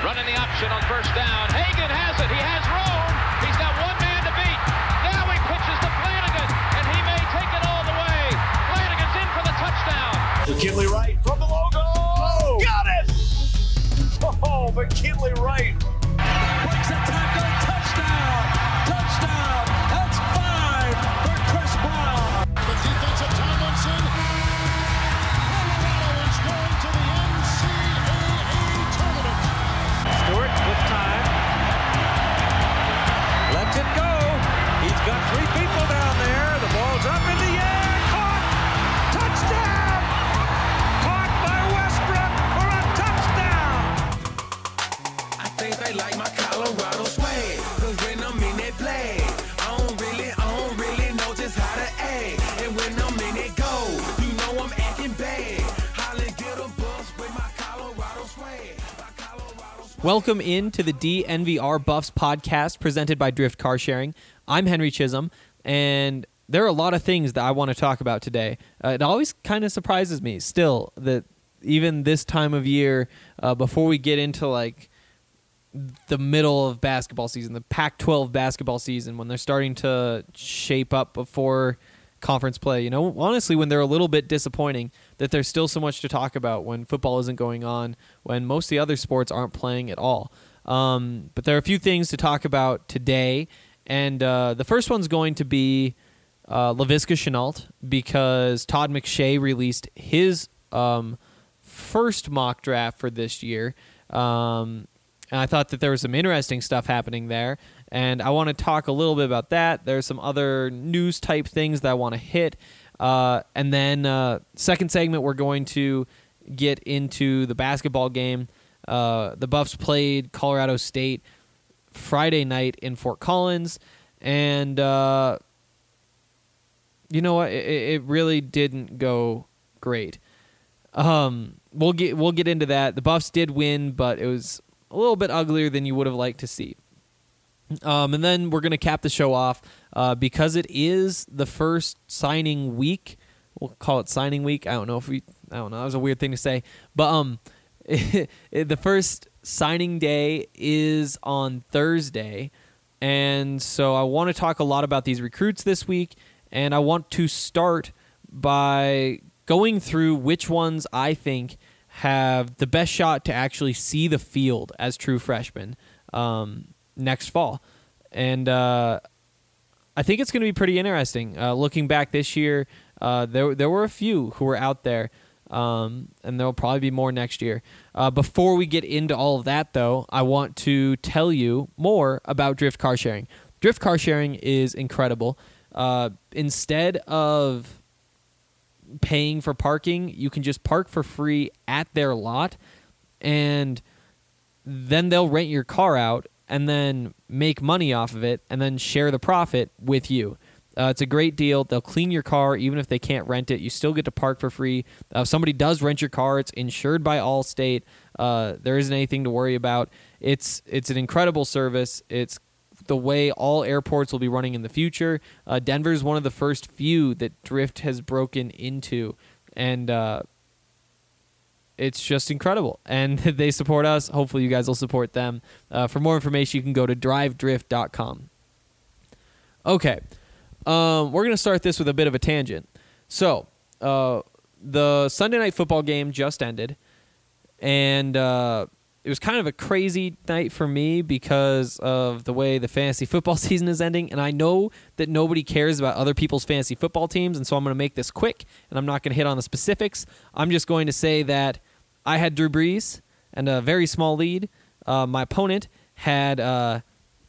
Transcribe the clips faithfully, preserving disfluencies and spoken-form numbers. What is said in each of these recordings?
Running the option on first down. Hagan has it. He has room. He's got one man to beat. Now he pitches to Flanagan, and he may take it all the way. Flanagan's in for the touchdown. McKinley Wright from the logo. Oh, got it! Oh, McKinley Wright. Breaks a tackle. Touchdown. Touchdown. That's five for Chris Brown. The defensive Tomlinson. Colorado is going to the N C double A tournament. Stewart with time. Lets it go. He's got three people down there. The ball's up in the air. Caught. Touchdown. Caught by Westbrook for a touchdown. I think they like my Colorado swag. Cause when I'm in that play, I don't really, I don't really know just how to act. And when I'm in it go, you know I'm acting bad. Holly get a bus with my Colorado swag. My Colorado swag. Welcome into the D N V R Buffs podcast presented by Drift Car Sharing. I'm Henry Chisholm, and there are a lot of things that I want to talk about today. Uh, it always kind of surprises me still that even this time of year, uh, before we get into like the middle of basketball season, the Pac twelve basketball season, when they're starting to shape up before conference play, you know, honestly, when they're a little bit disappointing, that there's still so much to talk about when football isn't going on, when most of the other sports aren't playing at all. Um, but there are a few things to talk about today, and uh, the first one's going to be uh, Laviska Shenault, because Todd McShay released his um, first mock draft for this year. Um, and I thought that there was some interesting stuff happening there, and I want to talk a little bit about that. There's some other news-type things that I want to hit. Uh, and then uh, second segment, we're going to get into the basketball game. Uh, the Buffs played Colorado State Friday night in Fort Collins, and uh, you know what? It, it really didn't go great. Um, we'll get we'll get into that. The Buffs did win, but it was a little bit uglier than you would have liked to see. Um, and then we're going to cap the show off uh, because it is the first signing week. We'll call it signing week. I don't know if we. I don't know. That was a weird thing to say, but um, it, it, the first signing day is on Thursday, and so I want to talk a lot about these recruits this week, and I want to start by going through which ones I think have the best shot to actually see the field as true freshmen um, next fall. And uh, I think it's going to be pretty interesting. Uh, looking back this year, uh, there there were a few who were out there, um, and there will probably be more next year. Uh, before we get into all of that, though, I want to tell you more about Drift Car Sharing. Drift Car Sharing is incredible. Uh, instead of paying for parking, you can just park for free at their lot, and then they'll rent your car out and then make money off of it and then share the profit with you. Uh, it's a great deal. They'll clean your car even if they can't rent it. You still get to park for free. Uh, if somebody does rent your car, it's insured by Allstate. Uh, there isn't anything to worry about. It's it's an incredible service. It's the way all airports will be running in the future. Uh, Denver is one of the first few that Drift has broken into, and uh, it's just incredible. And they support us. Hopefully you guys will support them. Uh, for more information, you can go to drive drift dot com. Okay, um, we're going to start this with a bit of a tangent. So, uh, the Sunday Night Football game just ended, and uh, it was kind of a crazy night for me because of the way the fantasy football season is ending, and I know that nobody cares about other people's fantasy football teams, and so I'm going to make this quick, and I'm not going to hit on the specifics. I'm just going to say that I had Drew Brees and a very small lead. Uh, my opponent had uh,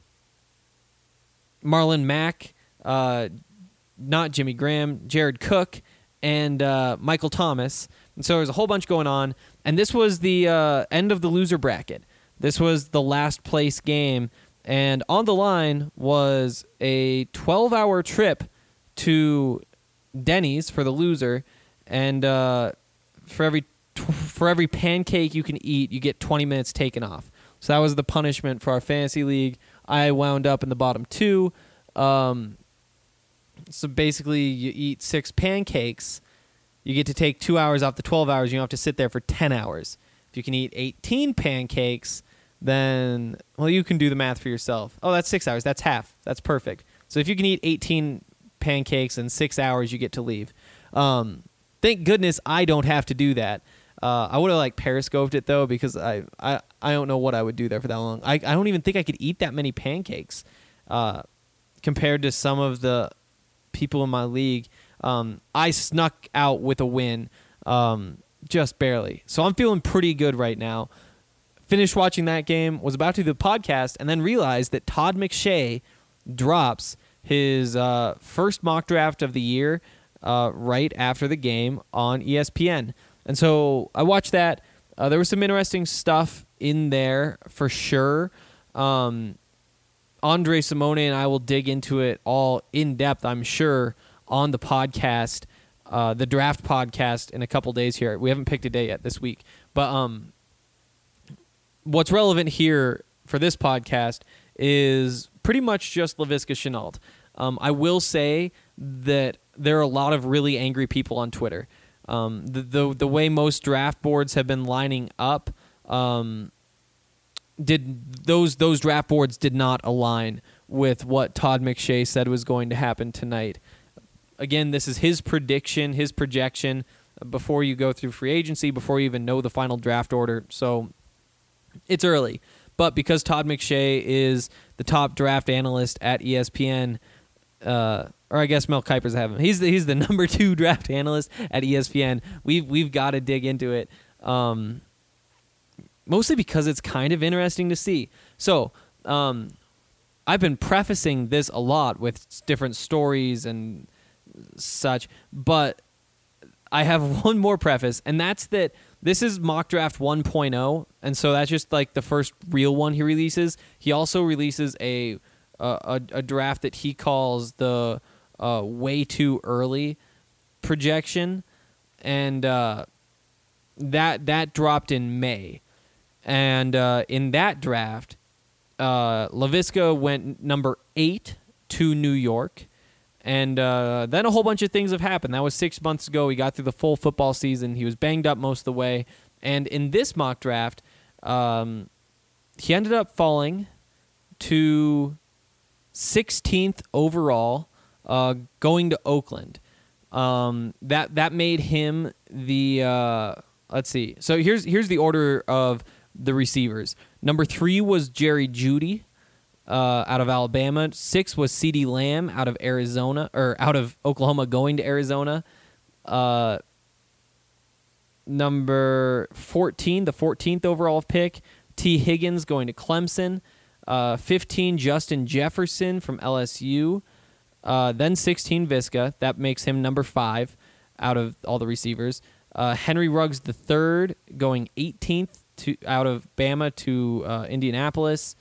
Marlon Mack, uh, not Jimmy Graham, Jared Cook, and uh, Michael Thomas. And so there was a whole bunch going on. And this was the uh, end of the loser bracket. This was the last place game. And on the line was a twelve-hour trip to Denny's for the loser. And uh, for every for every pancake you can eat, you get twenty minutes taken off. So that was the punishment for our fantasy league. I wound up in the bottom two. Um, so basically, you eat six pancakes. You get to take two hours off the twelve hours. You don't have to sit there for ten hours. If you can eat eighteen pancakes, then, well, you can do the math for yourself. Oh, that's six hours. That's half. That's perfect. So if you can eat eighteen pancakes in six hours, you get to leave. Um, thank goodness I don't have to do that. Uh, I would have like periscoped it though, because I, I, I don't know what I would do there for that long. I, I don't even think I could eat that many pancakes uh, compared to some of the people in my league. Um, I snuck out with a win, um, just barely. So I'm feeling pretty good right now. Finished watching that game, was about to do the podcast, and then realized that Todd McShay drops his uh, first mock draft of the year uh, right after the game on E S P N. And so I watched that. Uh, there was some interesting stuff in there for sure. Um, Andre Simone and I will dig into it all in depth, I'm sure, on the podcast, uh, the draft podcast in a couple days here. We haven't picked a day yet this week. But um, what's relevant here for this podcast is pretty much just Laviska Shenault. Um, I will say that there are a lot of really angry people on Twitter. Um, the, the the way most draft boards have been lining up, um, did those those draft boards did not align with what Todd McShay said was going to happen tonight. Again, this is his prediction, his projection before you go through free agency, before you even know the final draft order. So it's early. But because Todd McShay is the top draft analyst at E S P N, uh, or I guess Mel Kiper's have him. He's the, he's the number two draft analyst at E S P N. We've we've got to dig into it, um, mostly because it's kind of interesting to see. So um, I've been prefacing this a lot with different stories and such, but I have one more preface, and that's that this is mock draft one point oh, and so that's just like the first real one he releases. He also releases a a, a draft that he calls the uh, way too early projection, and uh, that that dropped in May, and uh, in that draft, uh, Laviska went number eight to New York. And uh, then a whole bunch of things have happened. That was six months ago. He got through the full football season. He was banged up most of the way. And in this mock draft, um, he ended up falling to sixteenth overall, uh, going to Oakland. Um, that that made him the uh, let's see. So here's here's the order of the receivers. Number three was Jerry Jeudy. Uh, out of Alabama. Six was CeeDee Lamb out of Arizona, or out of Oklahoma going to Arizona. Uh, number fourteen, the fourteenth overall pick, T. Higgins going to Clemson. Uh, fifteen, Justin Jefferson from L S U. Uh, then sixteen, Viska. That makes him number five out of all the receivers. Uh, Henry Ruggs the third going eighteenth to out of Bama to uh, Indianapolis.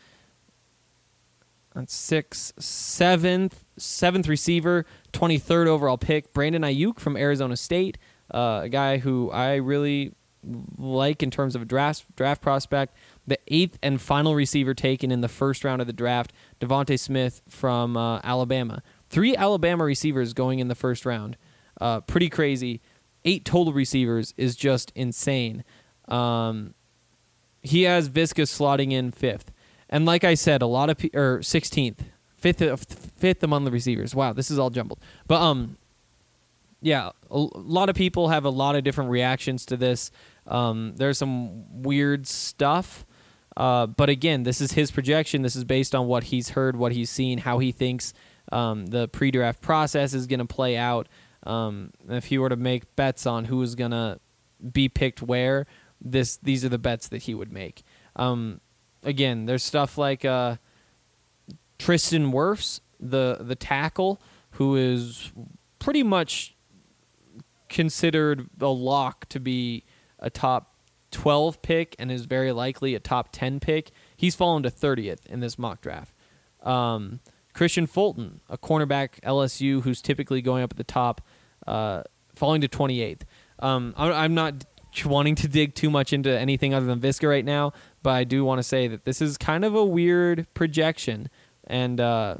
That's six, seventh, seventh receiver, twenty-third overall pick, Brandon Ayuk from Arizona State, uh, a guy who I really like in terms of a draft draft prospect. The eighth and final receiver taken in the first round of the draft, Devontae Smith from uh, Alabama. Three Alabama receivers going in the first round, uh, pretty crazy. Eight total receivers is just insane. Um, he has Viska slotting in fifth. And like I said, a lot of pe- or sixteenth, fifth, fifth among the receivers. Wow, this is all jumbled. But um, yeah, a lot of people have a lot of different reactions to this. Um, there's some weird stuff, uh, but again, this is his projection. This is based on what he's heard, what he's seen, how he thinks um, the pre-draft process is going to play out. Um, if he were to make bets on who is going to be picked where, this these are the bets that he would make. Um, Again, there's stuff like uh, Tristan Wirfs, the the tackle, who is pretty much considered a lock to be a top twelve pick and is very likely a top ten pick. He's fallen to thirtieth in this mock draft. Um, Christian Fulton, a cornerback L S U who's typically going up at the top, uh, falling to twenty-eighth. Um, I, I'm not wanting to dig too much into anything other than Viska right now, but I do want to say that this is kind of a weird projection, and uh,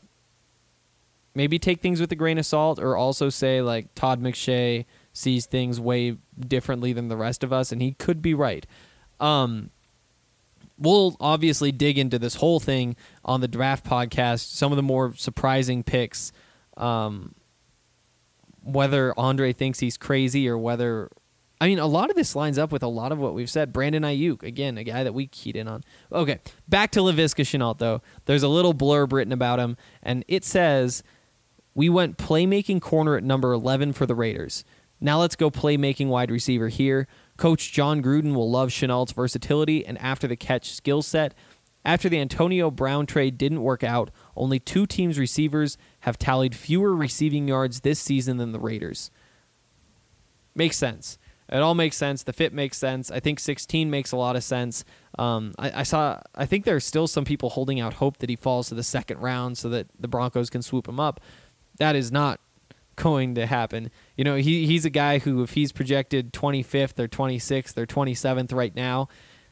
maybe take things with a grain of salt, or also say like Todd McShay sees things way differently than the rest of us, and he could be right. Um, we'll obviously dig into this whole thing on the draft podcast, some of the more surprising picks, um, whether Andre thinks he's crazy or whether, I mean, a lot of this lines up with a lot of what we've said. Brandon Ayuk, again, a guy that we keyed in on. Okay, back to Laviska Shenault, though. There's a little blurb written about him, and it says, we went playmaking corner at number eleven for the Raiders. Now let's go playmaking wide receiver here. Coach John Gruden will love Shenault's versatility and after-the-catch skill set. After the Antonio Brown trade didn't work out, only two teams' receivers have tallied fewer receiving yards this season than the Raiders. Makes sense. It all makes sense. The fit makes sense. I think sixteen makes a lot of sense. Um, I, I saw. I think there's still some people holding out hope that he falls to the second round so that the Broncos can swoop him up. That is not going to happen. You know, he he's a guy who, if he's projected twenty-fifth or twenty-sixth or twenty-seventh right now,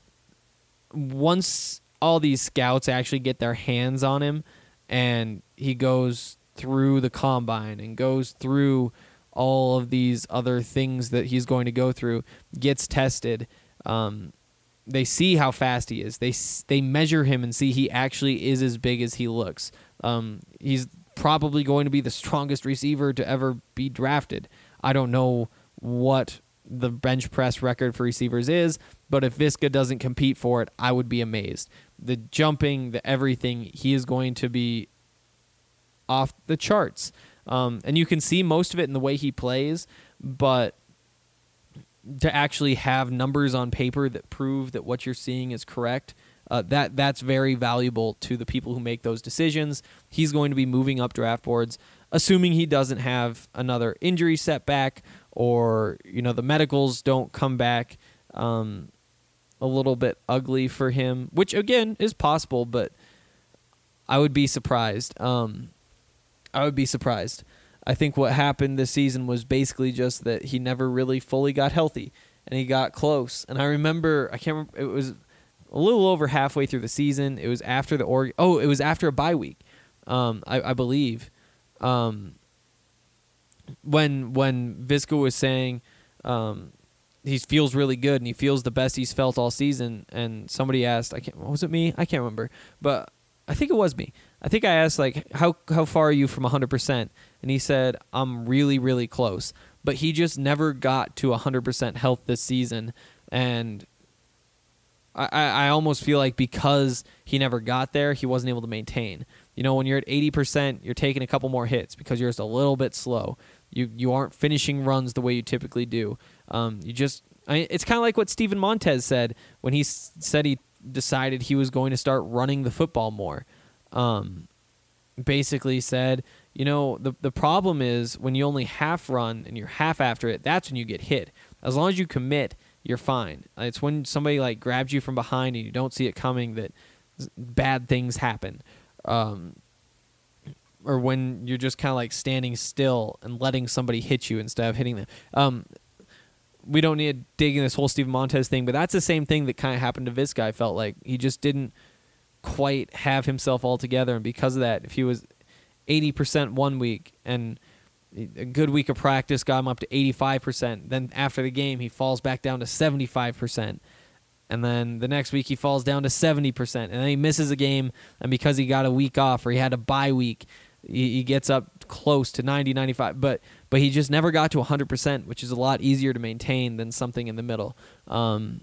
once all these scouts actually get their hands on him and he goes through the combine and goes through all of these other things that he's going to go through, gets tested, um, they see how fast he is. They they measure him and see he actually is as big as he looks. Um, he's probably going to be the strongest receiver to ever be drafted. I don't know what the bench press record for receivers is, but if Viska doesn't compete for it, I would be amazed. The jumping, the everything, he is going to be off the charts. Um, and you can see most of it in the way he plays, but to actually have numbers on paper that prove that what you're seeing is correct, uh, that that's very valuable to the people who make those decisions. He's going to be moving up draft boards, assuming he doesn't have another injury setback or, you know, the medicals don't come back um, a little bit ugly for him, which, again, is possible, but I would be surprised. Um, I would be surprised. I think what happened this season was basically just that he never really fully got healthy, and he got close. And I remember, I can't remember, it was a little over halfway through the season. It was after the Oregon, oh, it was after a bye week, um, I, I believe. Um, when when Viska was saying um, he feels really good and he feels the best he's felt all season, and somebody asked, I can't, was it me? I can't remember, but I think it was me. I think I asked, like, how how far are you from one hundred percent? And he said, I'm really, really close. But he just never got to one hundred percent health this season. And I, I almost feel like because he never got there, he wasn't able to maintain. You know, when you're at eighty percent, you're taking a couple more hits because you're just a little bit slow. You you aren't finishing runs the way you typically do. Um, you just I, it's kind of like what Steven Montez said when he s- said he decided he was going to start running the football more. Um, basically said, you know, the the problem is when you only half run and you're half after it, that's when you get hit. As long as you commit, you're fine. It's when somebody like grabs you from behind and you don't see it coming that bad things happen. Um, or when you're just kind of like standing still and letting somebody hit you instead of hitting them. Um, we don't need to dig in this whole Steven Montez thing, but that's the same thing that kind of happened to Viska. I felt like he just didn't quite have himself all together, and because of that, if he was eighty percent one week and a good week of practice got him up to eighty-five percent, then after the game he falls back down to seventy-five percent, and then the next week he falls down to seventy percent, and then he misses a game, and because he got a week off or he had a bye week, he, he gets up close to ninety, ninety-five, but but he just never got to one hundred percent, which is a lot easier to maintain than something in the middle. Um,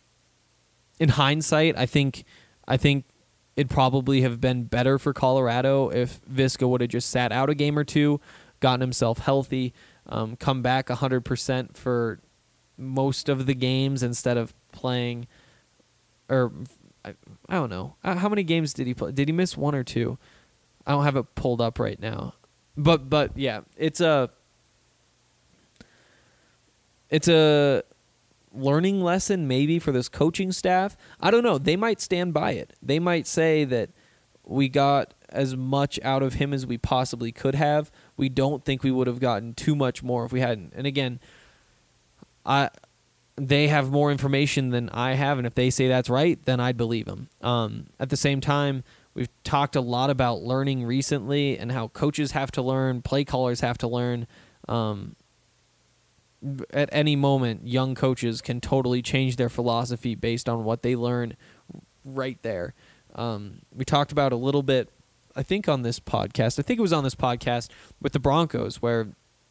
in hindsight, I think I think it'd probably have been better for Colorado if Viska would have just sat out a game or two, gotten himself healthy, um, come back one hundred percent for most of the games instead of playing, or I, I don't know. How many games did he play? Did he miss one or two? I don't have it pulled up right now. But, but yeah, it's a, it's a learning lesson maybe for this coaching staff. I don't know. They might stand by it. They might say that we got as much out of him as we possibly could have. We don't think we would have gotten too much more if we hadn't. And again, I they have more information than I have, and if they say that's right, then I'd believe them. Um, at the same time, we've talked a lot about learning recently and how coaches have to learn, play callers have to learn. Um, at any moment, young coaches can totally change their philosophy based on what they learn right there. Um, we talked about a little bit, I think, on this podcast. I think it was on this podcast with the Broncos where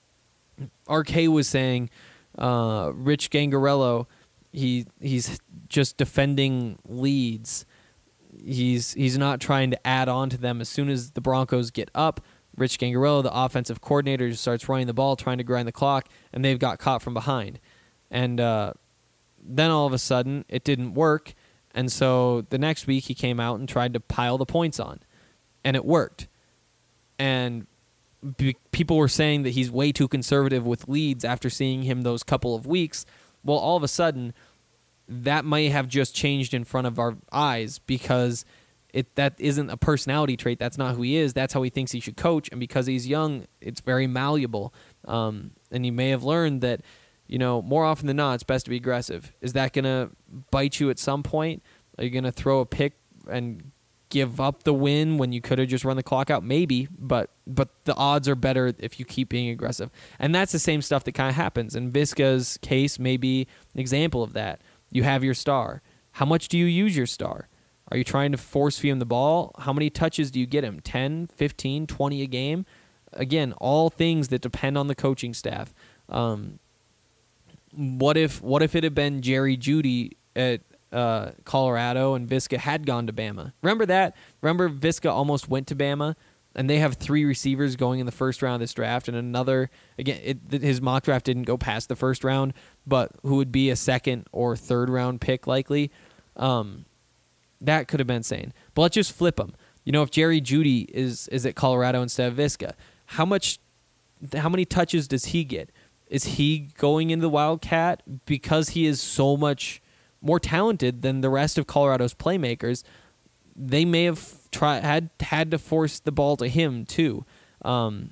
R K was saying uh, Rich Gangarello, he he's just defending leads. He's he's not trying to add on to them. As soon as the Broncos get up, Rich Gangarello, the offensive coordinator, just starts running the ball, trying to grind the clock, and they've got caught from behind. And uh, then all of a sudden, it didn't work. And so the next week he came out and tried to pile the points on, and it worked. And be- people were saying that he's way too conservative with leads after seeing him those couple of weeks. Well, all of a sudden, that may have just changed in front of our eyes because it that isn't a personality trait. That's not who he is. That's how he thinks he should coach. And because he's young, it's very malleable. Um, and he may have learned that, you know, more often than not, it's best to be aggressive. Is that going to bite you at some point? Are you going to throw a pick and give up the win when you could have just run the clock out? Maybe, but but the odds are better if you keep being aggressive. And that's the same stuff that kind of happens. In Viska's case, may be an example of that. You have your star. How much do you use your star? Are you trying to force feed him the ball? How many touches do you get him? ten, fifteen, twenty a game? Again, all things that depend on the coaching staff. Um, What if what if it had been Jerry Jeudy at uh, Colorado and Viska had gone to Bama? Remember that? Remember Viska almost went to Bama, and they have three receivers going in the first round of this draft, and another, again, it, his mock draft didn't go past the first round, but who would be a second or third round pick likely? Um, that could have been insane. But let's just flip them. You know, if Jerry Jeudy is is at Colorado instead of Viska, how much, how many touches does he get? Is he going into the Wildcat because he is so much more talented than the rest of Colorado's playmakers? They may have tried had had to force the ball to him too. Um,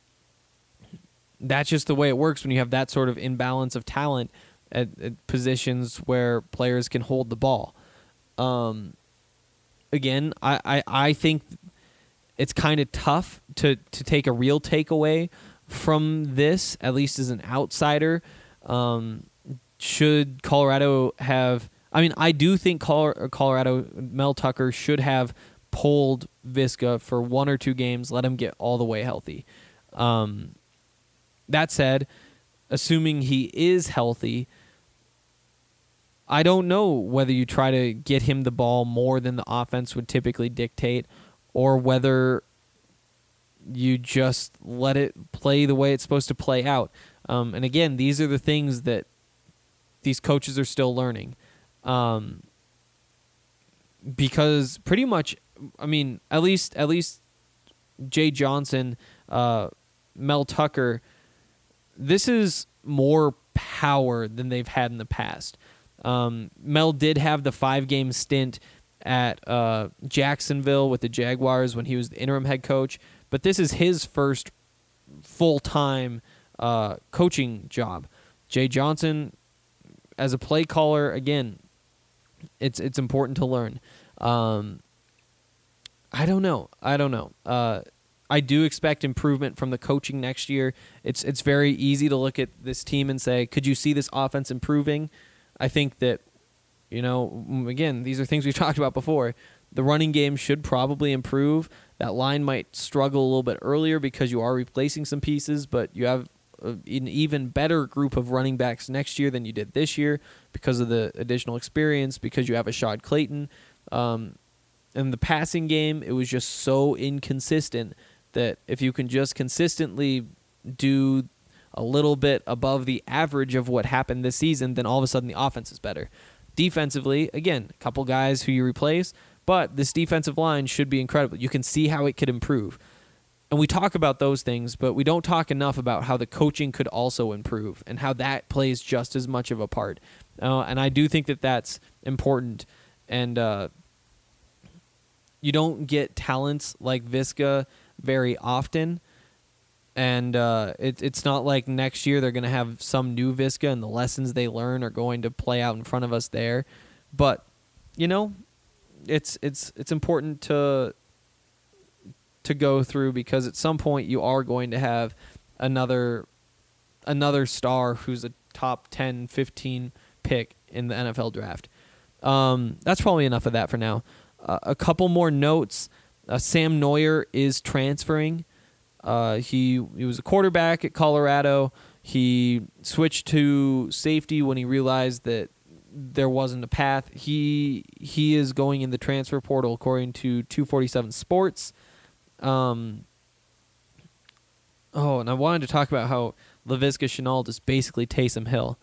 that's just the way it works when you have that sort of imbalance of talent at, at positions where players can hold the ball. Um, again, I, I, I think it's kind of tough to, to take a real takeaway from this, at least as an outsider. Um, should Colorado have... I mean, I do think Colorado, Mel Tucker should have pulled Viska for one or two games, let him get all the way healthy. Um, that said, assuming he is healthy, I don't know whether you try to get him the ball more than the offense would typically dictate, or whether you just let it play the way it's supposed to play out. Um, and again, these are the things that these coaches are still learning. Um, because pretty much, I mean, at least at least Jay Johnson, uh, Mel Tucker, this is more power than they've had in the past. Um, Mel did have the five-game stint at uh, Jacksonville with the Jaguars when he was the interim head coach, but this is his first full-time uh, coaching job. Jay Johnson, as a play caller, again, it's it's important to learn. Um, I don't know. I don't know. Uh, I do expect improvement from the coaching next year. It's it's very easy to look at this team and say, could you see this offense improving? I think that, you know, again, these are things we've talked about before. The running game should probably improve. That line might struggle a little bit earlier because you are replacing some pieces, but you have an even better group of running backs next year than you did this year because of the additional experience, because you have Ashad Clayton. Um, in the passing game, it was just so inconsistent that if you can just consistently do a little bit above the average of what happened this season, then all of a sudden the offense is better. Defensively, again, a couple guys who you replace, but this defensive line should be incredible. You can see how it could improve. And we talk about those things, but we don't talk enough about how the coaching could also improve and how that plays just as much of a part. Uh, and I do think that that's important. And uh, you don't get talents like Viska very often. And uh, it, it's not like next year they're going to have some new Viska and the lessons they learn are going to play out in front of us there. But, you know, it's it's it's important to to go through, because at some point you are going to have another another star who's a top ten, fifteen pick in the N F L draft. Um, that's probably enough of that for now. Uh, a couple more notes. Uh, Sam Neuer is transferring. Uh, he he was a quarterback at Colorado. He switched to safety when he realized that there wasn't a path. He he is going in the transfer portal according to two forty-seven Sports. Um, oh, and I wanted to talk about how Laviska Shenault is basically Taysom Hill.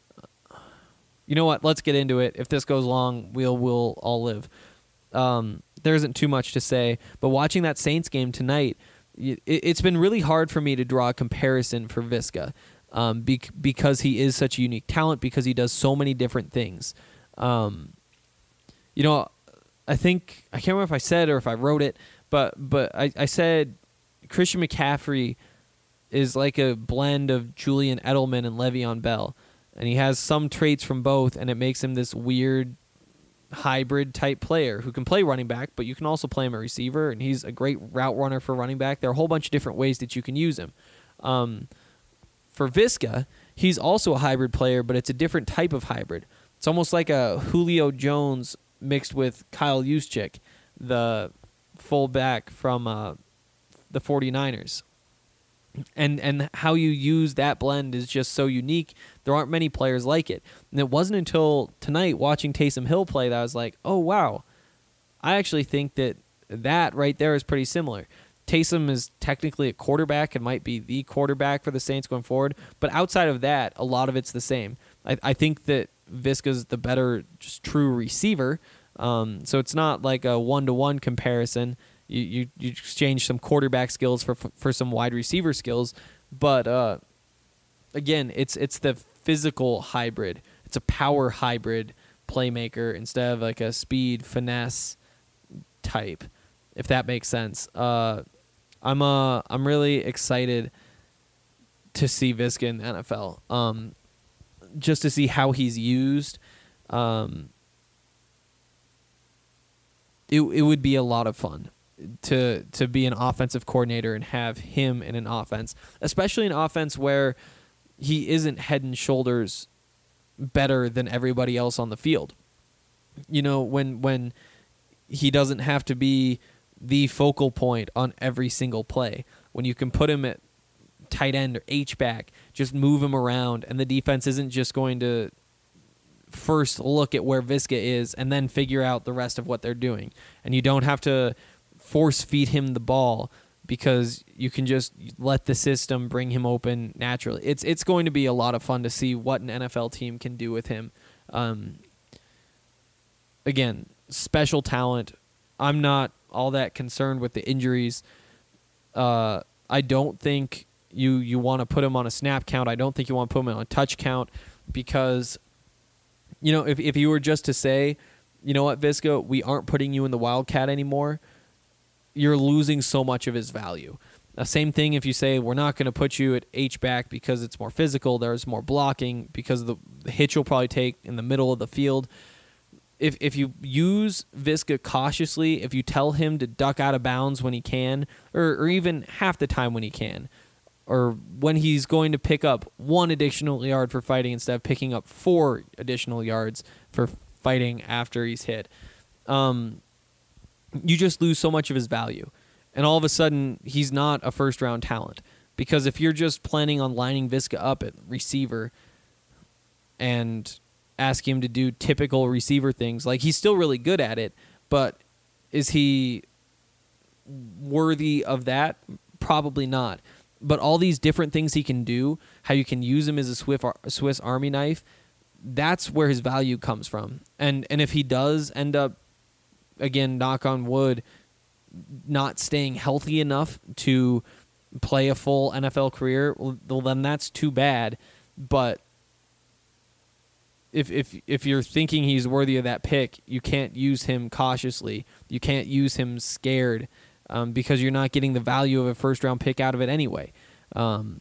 You know what? Let's get into it. If this goes long, we'll we'll all live. Um, there isn't too much to say, but watching that Saints game tonight, it, it's been really hard for me to draw a comparison for Viska, um, bec- because he is such a unique talent, because he does so many different things. Um, you know, I think I can't remember if I said or if I wrote it, but but I, I said Christian McCaffrey is like a blend of Julian Edelman and Le'Veon Bell. And he has some traits from both, and it makes him this weird hybrid type player who can play running back, but you can also play him a receiver, and he's a great route runner for running back. There are a whole bunch of different ways that you can use him. Um, for Viska, he's also a hybrid player, but it's a different type of hybrid. It's almost like a Julio Jones mixed with Kyle Juszczyk, the fullback from uh, the 49ers. And and how you use that blend is just so unique. There aren't many players like it. And it wasn't until tonight watching Taysom Hill play that I was like, oh, wow. I actually think that that right there is pretty similar. Taysom is technically a quarterback and might be the quarterback for the Saints going forward. But outside of that, a lot of it's the same. I, I think that Viska's the better just true receiver. Um, so it's not like a one-to-one comparison. You, you you exchange some quarterback skills for for some wide receiver skills, but uh, again, it's it's the physical hybrid. It's a power hybrid playmaker instead of like a speed finesse type, if that makes sense. Uh, I'm uh I'm really excited to see Viska in the N F L. Um, just to see how he's used. Um, it it would be a lot of fun to to be an offensive coordinator and have him in an offense, especially an offense where he isn't head and shoulders better than everybody else on the field. You know, when when he doesn't have to be the focal point on every single play, when you can put him at tight end or H-back, just move him around, and the defense isn't just going to first look at where Viska is and then figure out the rest of what they're doing. And you don't have to force feed him the ball because you can just let the system bring him open naturally. It's it's going to be a lot of fun to see what an N F L team can do with him. Um, again, special talent. I'm not all that concerned with the injuries. Uh, I don't think you you want to put him on a snap count. I don't think you want to put him on a touch count because, you know, if if you were just to say, you know what, Viska, we aren't putting you in the Wildcat anymore, you're losing so much of his value. Uh, same thing if you say we're not going to put you at H-back because it's more physical, there's more blocking, because of the, the hitch you'll probably take in the middle of the field. If if you use Viska cautiously, if you tell him to duck out of bounds when he can, or, or even half the time when he can, or when he's going to pick up one additional yard for fighting instead of picking up four additional yards for fighting after he's hit, um, you just lose so much of his value. And all of a sudden, he's not a first-round talent. Because if you're just planning on lining Viska up at receiver and ask him to do typical receiver things, like, he's still really good at it, but is he worthy of that? Probably not. But all these different things he can do, how you can use him as a Swiss, Swiss Army knife, that's where his value comes from. And and if he does end up, again, knock on wood, not staying healthy enough to play a full N F L career, well, then that's too bad. But if if if you're thinking he's worthy of that pick, you can't use him cautiously. You can't use him scared, um, because you're not getting the value of a first-round pick out of it anyway. Um,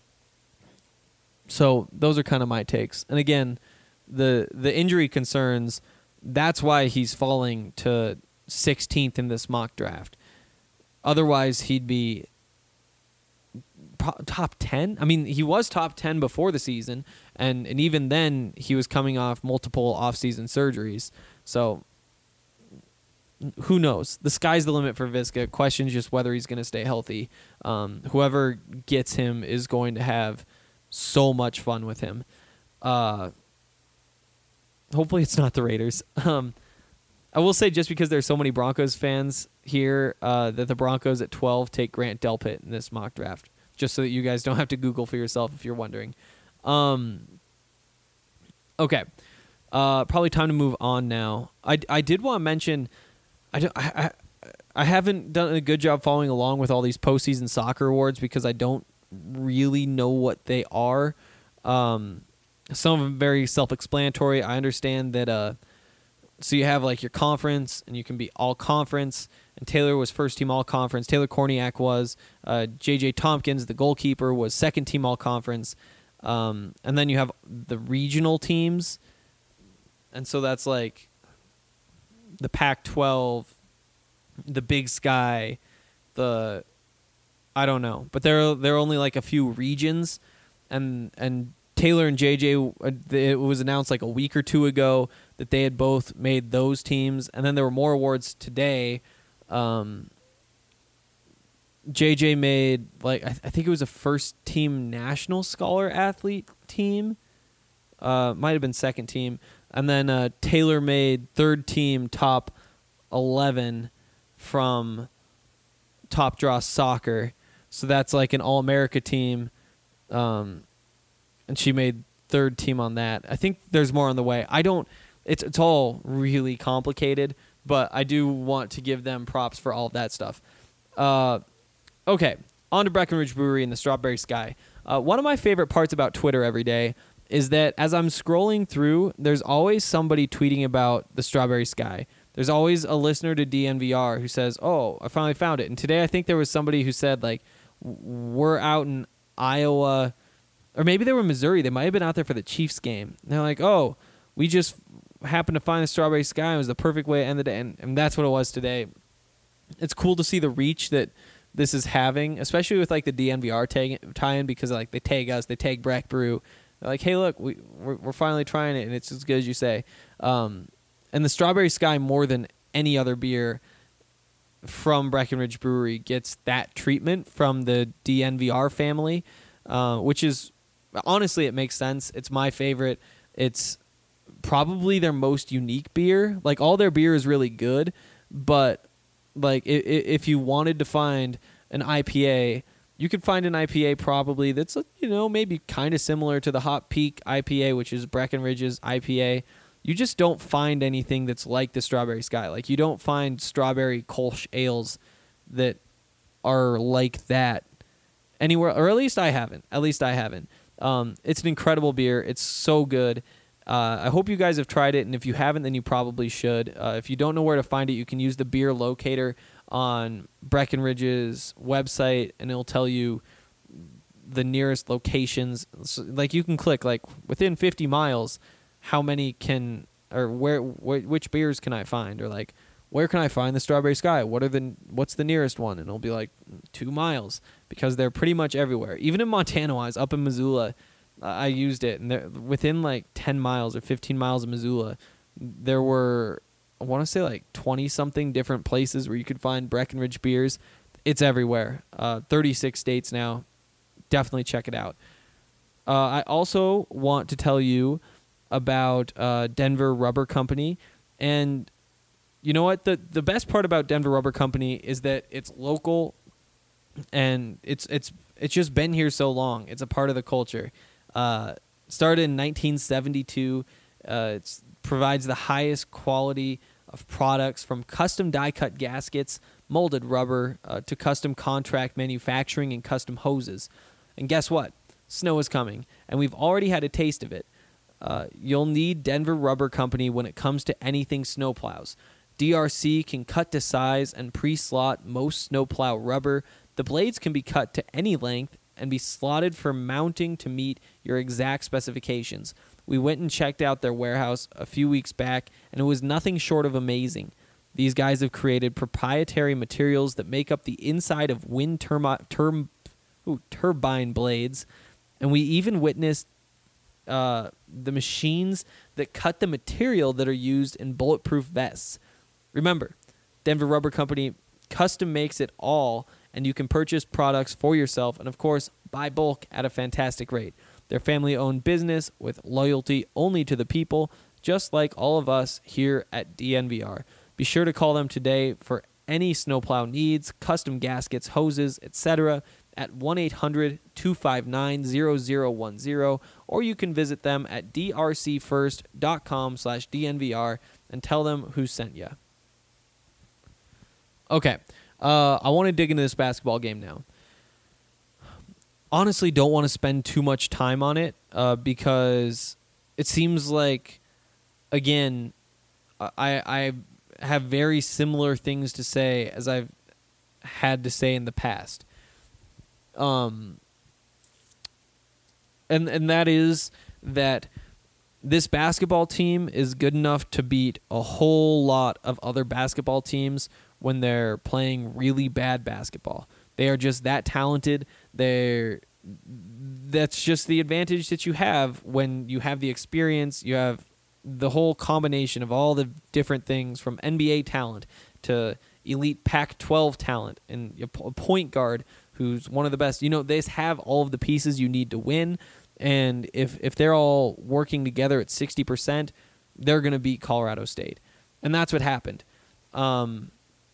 so those are kind of my takes. And again, the the injury concerns, that's why he's falling to sixteenth in this mock draft. Otherwise, he'd be pro- top ten. I mean, he was top ten before the season, and, and even then, he was coming off multiple off-season surgeries. So, who knows? The sky's the limit for Viska. Question's just whether he's going to stay healthy. Um, whoever gets him is going to have so much fun with him. Uh, hopefully, it's not the Raiders. Um, I will say, just because there's so many Broncos fans here, uh, that the Broncos at twelve take Grant Delpit in this mock draft, just so that you guys don't have to Google for yourself if you're wondering. Um, okay. Uh, probably time to move on now. I, I did want to mention, I, don't, I, I, I haven't done a good job following along with all these postseason soccer awards because I don't really know what they are. Um, some of them very self-explanatory. I understand that... Uh, So you have like your conference, and you can be all conference. And Taylor was first team all conference. Taylor Korniak was. Uh, J J Tompkins, the goalkeeper, was second team all conference. Um, and then you have the regional teams, and so that's like the Pac twelve, the Big Sky, the I don't know, but there there are only like a few regions, and and. Taylor and J J, it was announced like a week or two ago that they had both made those teams, and then there were more awards today. Um, J J made like I, th- I think it was a first team national scholar athlete team, uh, might have been second team, and then uh, Taylor made third team top eleven from Top Draw Soccer, so that's like an All America team. Um, And she made third team on that. I think there's more on the way. I don't. It's it's all really complicated, but I do want to give them props for all of that stuff. Uh, okay, on to Breckenridge Brewery and the Strawberry Sky. Uh, one of my favorite parts about Twitter every day is that as I'm scrolling through, there's always somebody tweeting about the Strawberry Sky. There's always a listener to D N V R who says, "Oh, I finally found it." And today I think there was somebody who said like, "We're out in Iowa." Or maybe they were in Missouri. They might have been out there for the Chiefs game. And they're like, oh, we just happened to find the Strawberry Sky. It was the perfect way to end the day. And, and that's what it was today. It's cool to see the reach that this is having, especially with like the D N V R tag, tie-in, because like they tag us, they tag Breck Brew. They're like, hey, look, we, we're, we're finally trying it, and it's as good as you say. Um, and the Strawberry Sky, more than any other beer from Breckenridge Brewery, gets that treatment from the D N V R family, uh, which is... Honestly, it makes sense. It's my favorite. It's probably their most unique beer. Like, all their beer is really good, but like if you wanted to find an I P A, you could find an I P A probably that's, you know, maybe kind of similar to the Hop Peak I P A, which is Breckenridge's I P A. You just don't find anything that's like the Strawberry Sky. Like, you don't find strawberry Kolsch ales that are like that anywhere, or at least I haven't. At least I haven't. Um, it's an incredible beer. It's so good. Uh, I hope you guys have tried it, and if you haven't, then you probably should. Uh, if you don't know where to find it, you can use the beer locator on Breckenridge's website, and it'll tell you the nearest locations. So, like, you can click, like, within fifty miles, how many can, or where, where, which beers can I find, or like, where can I find the Strawberry Sky? What are the what's the nearest one? And it'll be like two miles because they're pretty much everywhere. Even in Montana, I was up in Missoula, uh, I used it, and they're within like ten miles or fifteen miles of Missoula, there were, I want to say like twenty something different places where you could find Breckenridge beers. It's everywhere. Uh, thirty-six states now. Definitely check it out. Uh, I also want to tell you about uh, Denver Rubber Company, and you know what? The the best part about Denver Rubber Company is that it's local, and it's it's it's just been here so long. It's a part of the culture. Uh, started in nineteen seventy-two. Uh, it provides the highest quality of products, from custom die-cut gaskets, molded rubber, uh, to custom contract manufacturing and custom hoses. And guess what? Snow is coming, and we've already had a taste of it. Uh, you'll need Denver Rubber Company when it comes to anything snowplows. D R C can cut to size and pre-slot most snowplow rubber. The blades can be cut to any length and be slotted for mounting to meet your exact specifications. We went and checked out their warehouse a few weeks back, and it was nothing short of amazing. These guys have created proprietary materials that make up the inside of wind turbine term, ooh, turbine blades, and we even witnessed uh, the machines that cut the material that are used in bulletproof vests. Remember, Denver Rubber Company custom makes it all, and you can purchase products for yourself and, of course, buy bulk at a fantastic rate. They're family-owned business with loyalty only to the people, just like all of us here at D N V R. Be sure to call them today for any snowplow needs, custom gaskets, hoses, et cetera at one eight hundred two five nine zero zero one zero, or you can visit them at d r c first dot com slash D N V R and tell them who sent you. Okay, uh, I want to dig into this basketball game now. Honestly, don't want to spend too much time on it uh, because it seems like, again, I I have very similar things to say as I've had to say in the past. Um, and and that is that this basketball team is good enough to beat a whole lot of other basketball teams when they're playing really bad basketball. They are just that talented. They're that's just the advantage that you have when you have the experience. You have the whole combination of all the different things from N B A talent to elite Pac twelve talent and a point guard who's one of the best. You know, they have all of the pieces you need to win, and if if they're all working together at sixty percent, they're going to beat Colorado State. And that's what happened. Um,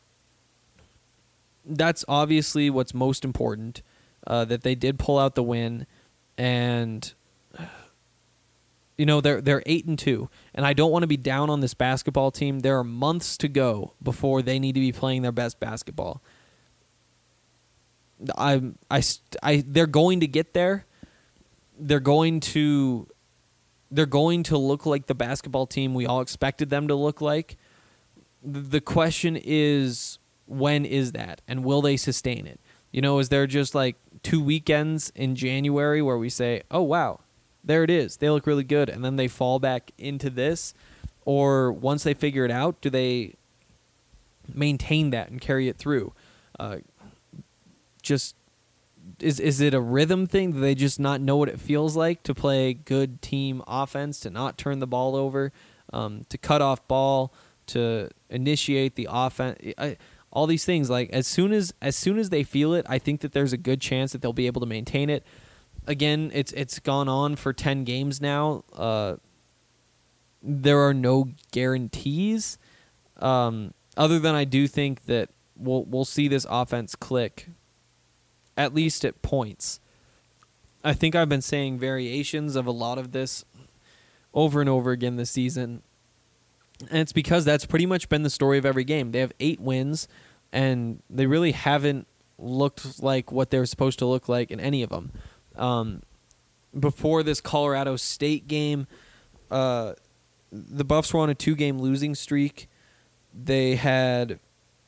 that's obviously what's most important, uh, that they did pull out the win, and you know, they're they're eight and two, and I don't want to be down on this basketball team. There are months to go before they need to be playing their best basketball. I I I they're going to get there. They're going to they're going to look like the basketball team we all expected them to look like. The question is, when is that, and will they sustain it? You know, is there just like two weekends in January where we say, "Oh wow, there it is. They look really good," and then they fall back into this? Or once they figure it out, do they maintain that and carry it through? Uh, just is is it a rhythm thing? Do they just not know what it feels like to play good team offense, to not turn the ball over, um, to cut off ball, to initiate the offense? I, all these things, like as soon as as soon as they feel it, I think that there's a good chance that they'll be able to maintain it. Again, it's it's gone on for ten games now. Uh, there are no guarantees, um, other than I do think that we'll we'll see this offense click, at least at points. I think I've been saying variations of a lot of this over and over again this season, and it's because that's pretty much been the story of every game. They have eight wins, and they really haven't looked like what they were supposed to look like in any of them. Um, before this Colorado State game, uh, the Buffs were on a two-game losing streak. They had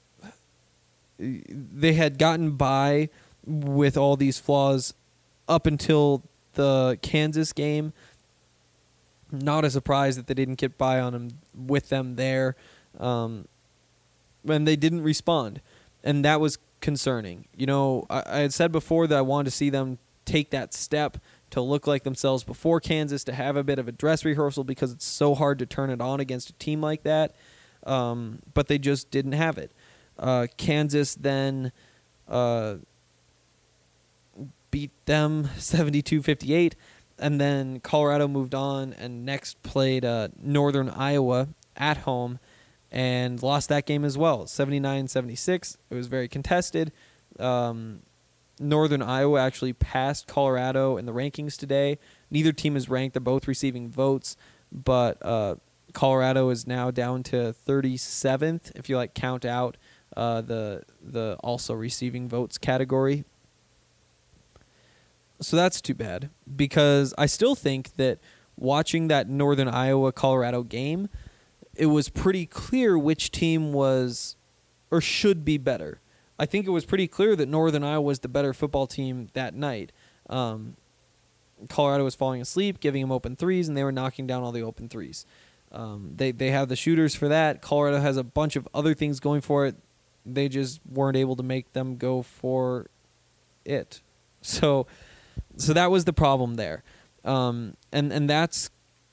they had gotten by with all these flaws up until the Kansas game. Not a surprise that they didn't get by on them with them there, um, and they didn't respond, and that was concerning. You know, I, I had said before that I wanted to see them take that step to look like themselves before Kansas, to have a bit of a dress rehearsal, because it's so hard to turn it on against a team like that. Um, but they just didn't have it. Uh, Kansas then uh, beat them seventy-two fifty-eight, and then Colorado moved on and next played uh, Northern Iowa at home and lost that game as well, seventy-nine seventy-six. It was very contested. Um, Northern Iowa actually passed Colorado in the rankings today. Neither team is ranked. They're both receiving votes, but uh, Colorado is now down to thirty-seventh if you like count out uh, the the also receiving votes category. So that's too bad, because I still think that watching that Northern Iowa Colorado game, it was pretty clear which team was or should be better. I think it was pretty clear that Northern Iowa was the better football team that night. Um, Colorado was falling asleep, giving them open threes, and they were knocking down all the open threes. Um, they they have the shooters for that. Colorado has a bunch of other things going for it. They just weren't able to make them go for it. So, so that was the problem there, um, and and that's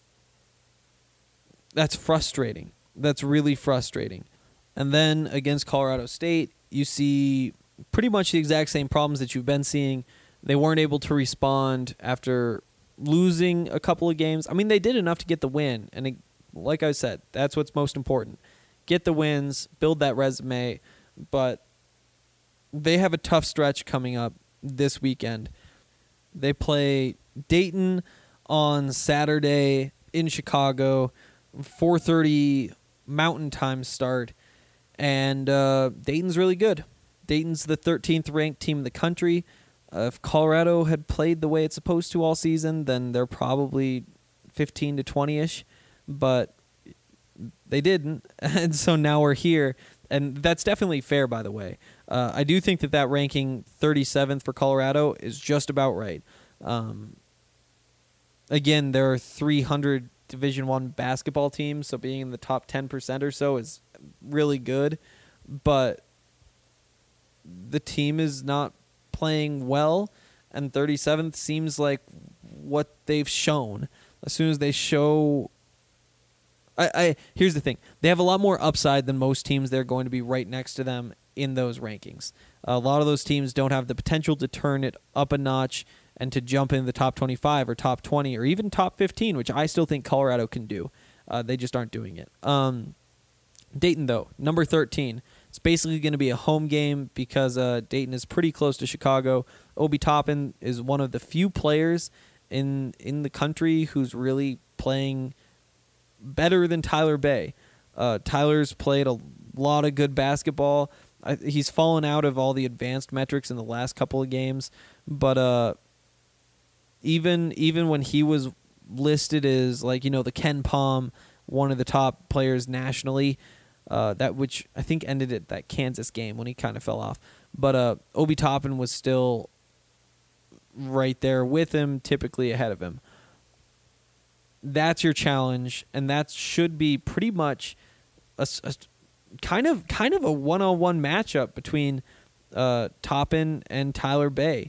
that's frustrating. That's really frustrating. And then against Colorado State, you see pretty much the exact same problems that you've been seeing. They weren't able to respond after losing a couple of games. I mean, they did enough to get the win, and it, like I said, that's what's most important. Get the wins, build that resume, but they have a tough stretch coming up this weekend. They play Dayton on Saturday in Chicago, four thirty Mountain Time start, and uh, Dayton's really good. Dayton's the thirteenth ranked team in the country. Uh, if Colorado had played the way it's supposed to all season, then they're probably fifteen to twenty-ish, but they didn't, and so now we're here, and that's definitely fair, by the way. Uh, I do think that that ranking thirty-seventh for Colorado is just about right. Um, again, there are three hundred Division One basketball teams, so being in the top ten percent or so is really good, but the team is not playing well, and thirty-seventh seems like what they've shown. As soon as they show... I, I here's the thing. They have a lot more upside than most teams. They're going to be right next to them in those rankings. A lot of those teams don't have the potential to turn it up a notch and to jump in the top twenty-five or top twenty or even top fifteen, which I still think Colorado can do. Uh, they just aren't doing it. Um, Dayton, though, number thirteen. It's basically going to be a home game because uh, Dayton is pretty close to Chicago. Obi Toppin is one of the few players in in the country who's really playing better than Tyler Bay. Uh, Tyler's played a lot of good basketball. I, he's fallen out of all the advanced metrics in the last couple of games, but uh, even even when he was listed as, like, you know, the Ken Palm, one of the top players nationally, uh, that which I think ended at that Kansas game when he kind of fell off. But uh, Obi Toppin was still right there with him, typically ahead of him. That's your challenge, and that should be pretty much a, a kind of kind of a one-on-one matchup between uh, Toppin and Tyler Bay.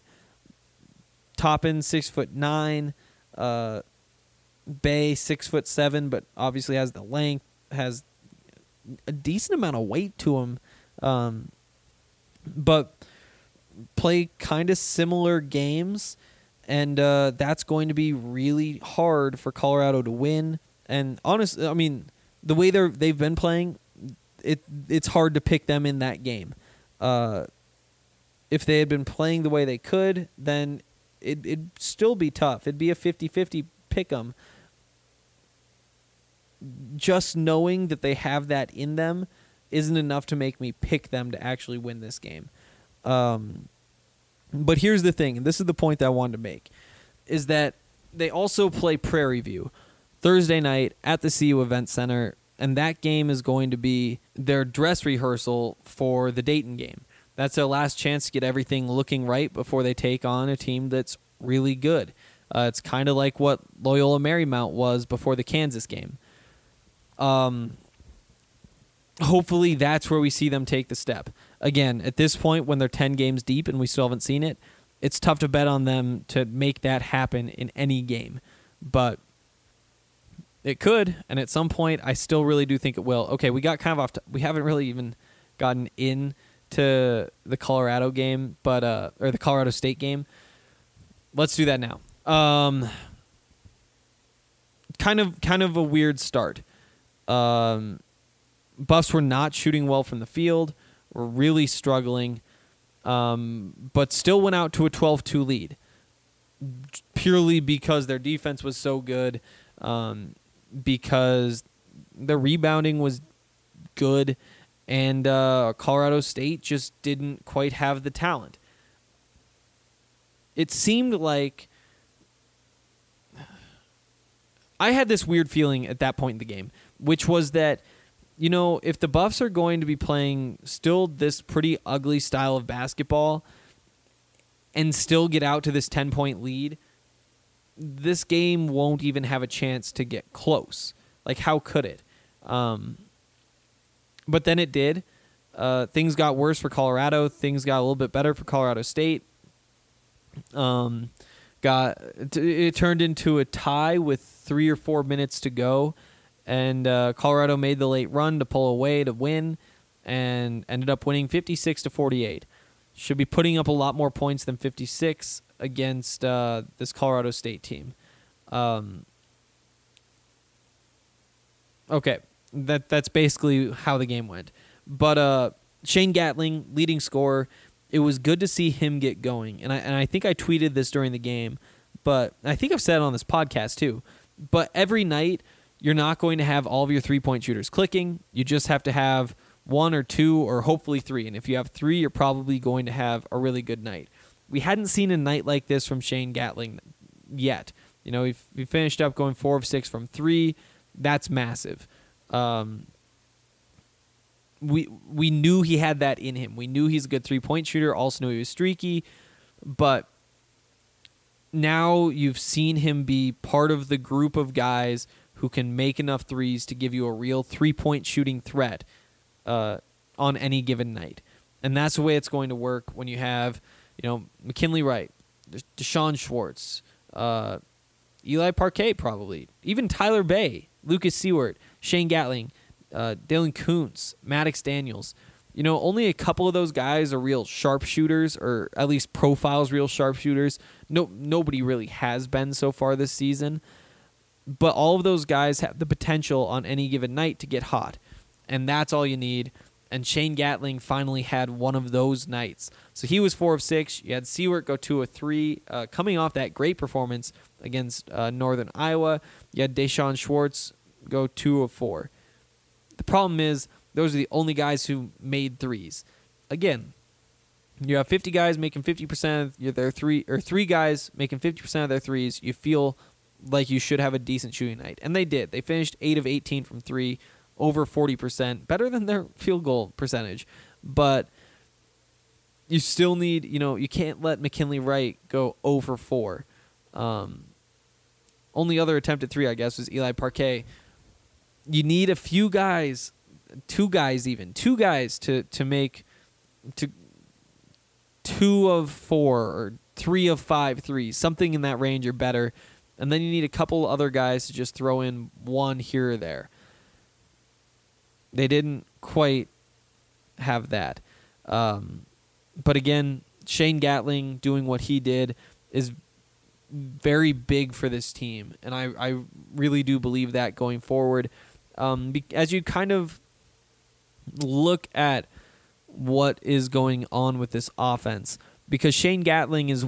Toppin six foot nine, uh, Bay six foot seven, but obviously has the length, has a decent amount of weight to him, um, but play kind of similar games. And uh, that's going to be really hard for Colorado to win. And honestly, I mean, the way they're they've been playing, it it's hard to pick them in that game. Uh, if they had been playing the way they could, then it, it'd still be tough. It'd be a fifty-fifty pick 'em. Just knowing that they have that in them isn't enough to make me pick them to actually win this game. Um, But here's the thing, and this is the point that I wanted to make, is that they also play Prairie View Thursday night at the C U Event Center, and that game is going to be their dress rehearsal for the Dayton game. That's their last chance to get everything looking right before they take on a team that's really good. Uh, it's kind of like what Loyola Marymount was before the Kansas game. Um, hopefully that's where we see them take the step. Again, at this point, when they're ten games deep and we still haven't seen it, it's tough to bet on them to make that happen in any game. But it could, and at some point, I still really do think it will. Okay, we got kind of off. To, we haven't really even gotten in to the Colorado game, but uh, or the Colorado State game. Let's do that now. Um, kind of, kind of a weird start. Um, Buffs were not shooting well from the field. Were really struggling, um, but still went out to a twelve two lead, purely because their defense was so good, um, because the rebounding was good, and uh, Colorado State just didn't quite have the talent. It seemed like I had this weird feeling at that point in the game, which was that, you know, if the Buffs are going to be playing still this pretty ugly style of basketball and still get out to this ten-point lead, this game won't even have a chance to get close. Like, how could it? Um, but then it did. Uh, things got worse for Colorado. Things got a little bit better for Colorado State. Um, got it turned into a tie with three or four minutes to go, and uh, Colorado made the late run to pull away to win, and ended up winning fifty-six to forty-eight. Should be putting up a lot more points than fifty-six against uh, this Colorado State team. Um, okay, that that's basically how the game went. But uh, Shane Gatling, leading scorer. It was good to see him get going, and I and I think I tweeted this during the game, but I think I've said it on this podcast too. But every night, you're not going to have all of your three-point shooters clicking. You just have to have one or two or hopefully three, and if you have three, you're probably going to have a really good night. We hadn't seen a night like this from Shane Gatling yet. You know, we we finished up going four of six from three. That's massive. Um, we we knew he had that in him. We knew he's a good three-point shooter. Also knew he was streaky. But now you've seen him be part of the group of guys who can make enough threes to give you a real three-point shooting threat uh, on any given night. And that's the way it's going to work when you have, you know, McKinley Wright, Deshaun Schwartz, uh, Eli Parquet probably, even Tyler Bay, Lucas Seward, Shane Gatling, uh, Dalen Kuntz, Maddox Daniels. You know, only a couple of those guys are real sharpshooters, or at least profiles real sharpshooters. No, nobody really has been so far this season. But all of those guys have the potential on any given night to get hot. And that's all you need. And Shane Gatling finally had one of those nights. So he was four of six. You had Seward go two of three, uh, coming off that great performance against uh, Northern Iowa. You had Deshaun Schwartz go two of four. The problem is those are the only guys who made threes. Again, you have fifty guys making fifty percent of their three, or three guys making fifty percent of their threes. You feel like you should have a decent shooting night. And they did. They finished eight of eighteen from three, over forty percent, better than their field goal percentage. But you still need, you know, you can't let McKinley Wright go over four. Um, only other attempt at three, I guess, was Eli Parquet. You need a few guys, two guys even, two guys to, to make to two of four or three of five threes, something in that range or better. And then you need a couple other guys to just throw in one here or there. They didn't quite have that. Um, but again, Shane Gatling doing what he did is very big for this team. And I, I really do believe that going forward. Um, be, as you kind of look at what is going on with this offense, because Shane Gatling is...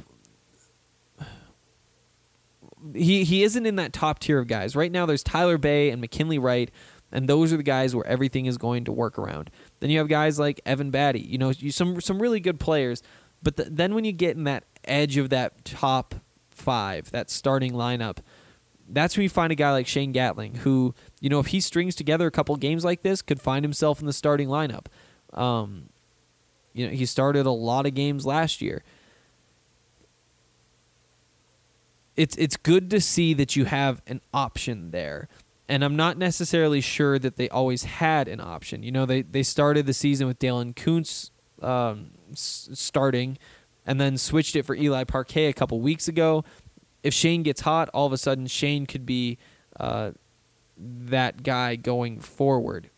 He he isn't in that top tier of guys. Right now there's Tyler Bay and McKinley Wright, and those are the guys where everything is going to work around. Then you have guys like Evan Batty, you know, you, some some really good players. But the, then when you get in that edge of that top five, that starting lineup, that's when you find a guy like Shane Gatling, who, you know, if he strings together a couple games like this, could find himself in the starting lineup. Um, you know, he started a lot of games last year. It's it's good to see that you have an option there. And I'm not necessarily sure that they always had an option. You know, they, they started the season with Dalen Kuntz um, s- starting and then switched it for Eli Parquet a couple weeks ago. If Shane gets hot, all of a sudden Shane could be uh, that guy going forward.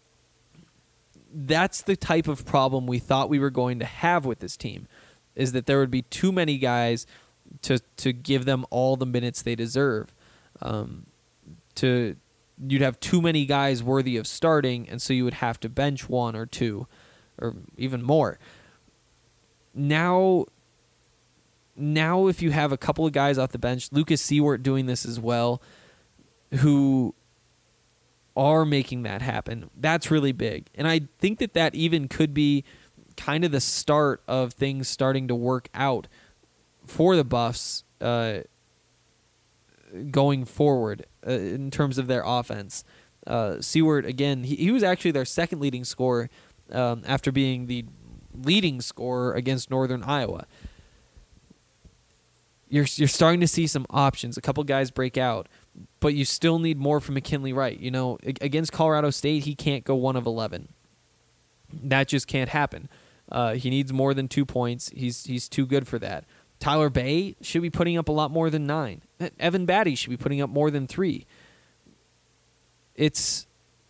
That's the type of problem we thought we were going to have with this team, is that there would be too many guys to to give them all the minutes they deserve. Um, to you'd have too many guys worthy of starting, and so you would have to bench one or two, or even more. Now, now if you have a couple of guys off the bench, Lucas Seward doing this as well, who are making that happen, that's really big. And I think that that even could be kind of the start of things starting to work out for the Buffs uh, going forward uh, in terms of their offense. Uh, Seward, again, he, he was actually their second leading scorer um, after being the leading scorer against Northern Iowa. You're you're starting to see some options. A couple guys break out, but you still need more from McKinley Wright. You know, against Colorado State, he can't go one of eleven. That just can't happen. Uh, he needs more than two points. He's he's too good for that. Tyler Bay should be putting up a lot more than nine. Evan Batty should be putting up more than three. It's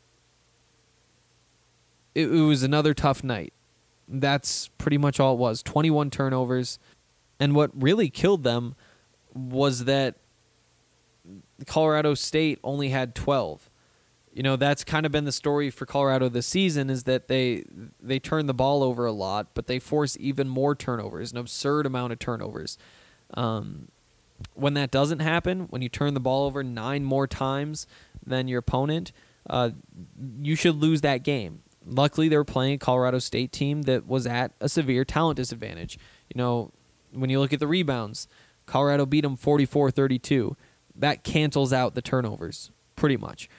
it, it was another tough night. That's pretty much all it was. twenty-one turnovers. And what really killed them was that Colorado State only had twelve. You know, that's kind of been the story for Colorado this season, is that they they turn the ball over a lot, but they force even more turnovers, an absurd amount of turnovers. Um, when that doesn't happen, when you turn the ball over nine more times than your opponent, uh, you should lose that game. Luckily, they were playing a Colorado State team that was at a severe talent disadvantage. You know, when you look at the rebounds, Colorado beat them forty-four thirty-two. That cancels out the turnovers, pretty much.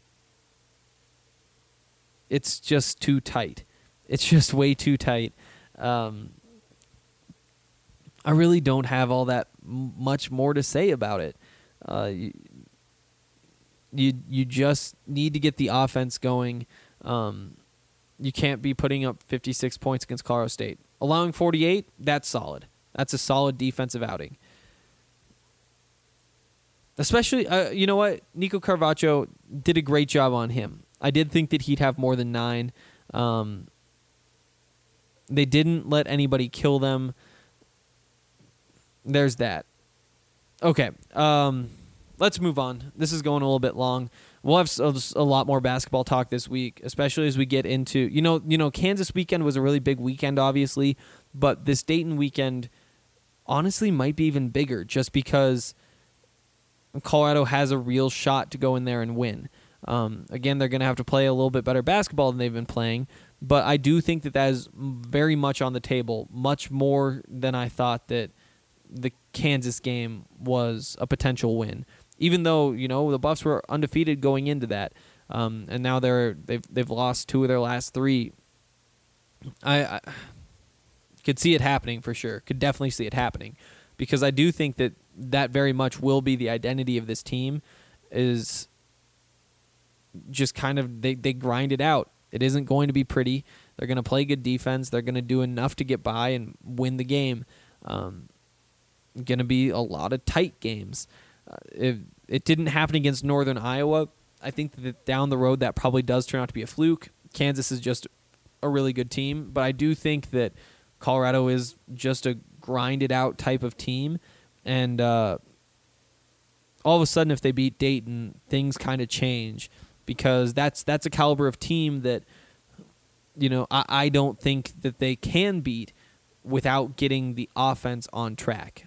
It's just too tight. It's just way too tight. Um, I really don't have all that m- much more to say about it. Uh, you, you you just need to get the offense going. Um, you can't be putting up fifty-six points against Colorado State. Allowing forty-eight, that's solid. That's a solid defensive outing. Especially, uh, you know what? Nico Carvacho did a great job on him. I did think that he'd have more than nine. Um, they didn't let anybody kill them. There's that. Okay, um, let's move on. This is going a little bit long. We'll have a, a lot more basketball talk this week, especially as we get into, you know, you know, Kansas weekend was a really big weekend, obviously, but this Dayton weekend honestly might be even bigger, just because Colorado has a real shot to go in there and win. Um, again, they're going to have to play a little bit better basketball than they've been playing, but I do think that that is very much on the table, much more than I thought that the Kansas game was a potential win. Even though, you know, the Buffs were undefeated going into that, um, and now they're they've they've lost two of their last three. I, I could see it happening for sure. Could definitely see it happening, because I do think that that very much will be the identity of this team. Is just kind of they, they grind it out. It isn't going to be pretty. They're going to play good defense. They're going to do enough to get by and win the game. Um, going to be a lot of tight games. Uh, if it didn't happen against Northern Iowa, I think that down the road that probably does turn out to be a fluke. Kansas is just a really good team, but I do think that Colorado is just a grinded out type of team, and uh, all of a sudden if they beat Dayton, things kind of change. Because that's that's a caliber of team that, you know, I, I don't think that they can beat without getting the offense on track.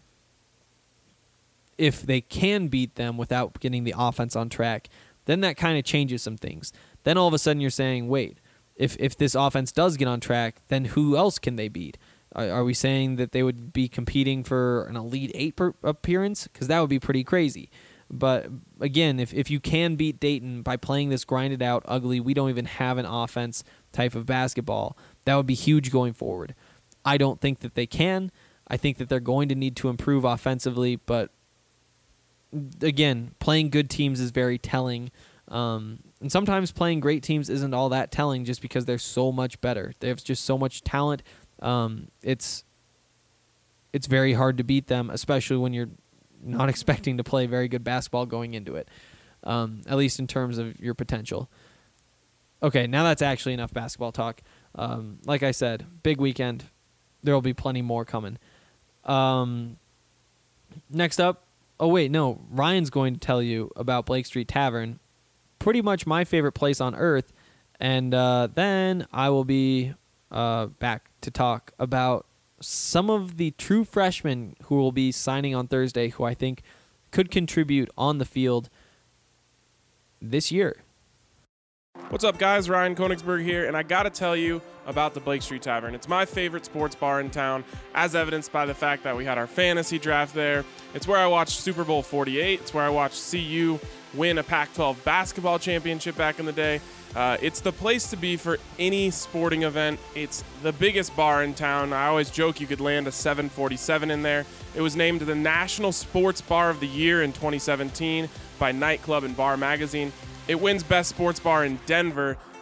If they can beat them without getting the offense on track, then that kind of changes some things. Then all of a sudden you're saying, wait, if if this offense does get on track, then who else can they beat? Are, are we saying that they would be competing for an Elite Eight per appearance? Because that would be pretty crazy. But again, if, if you can beat Dayton by playing this grinded out, ugly, we don't even have an offense type of basketball, that would be huge going forward. I don't think that they can. I think that they're going to need to improve offensively, but again, playing good teams is very telling. Um, and sometimes playing great teams isn't all that telling just because they're so much better. They have just so much talent. Um, it's it's very hard to beat them, especially when you're not expecting to play very good basketball going into it, um, at least in terms of your potential. Okay, now that's actually enough basketball talk. Um, like I said, big weekend. There will be plenty more coming. Um, next up, oh wait, no, Ryan's going to tell you about Blake Street Tavern, pretty much my favorite place on earth, and uh, then I will be uh, back to talk about some of the true freshmen who will be signing on Thursday, who I think could contribute on the field this year. What's up, guys? Ryan Konigsberg here, and I gotta tell you about the Blake Street Tavern. It's my favorite sports bar in town, as evidenced by the fact that we had our fantasy draft there. It's where I watched Super Bowl forty-eight. It's where I watched C U win a Pac twelve basketball championship back in the day. Uh, it's the place to be for any sporting event. It's the biggest bar in town. I always joke you could land a seven forty-seven in there. It was named the National Sports Bar of the Year in twenty seventeen by Nightclub and Bar Magazine. It wins Best Sports Bar in Denver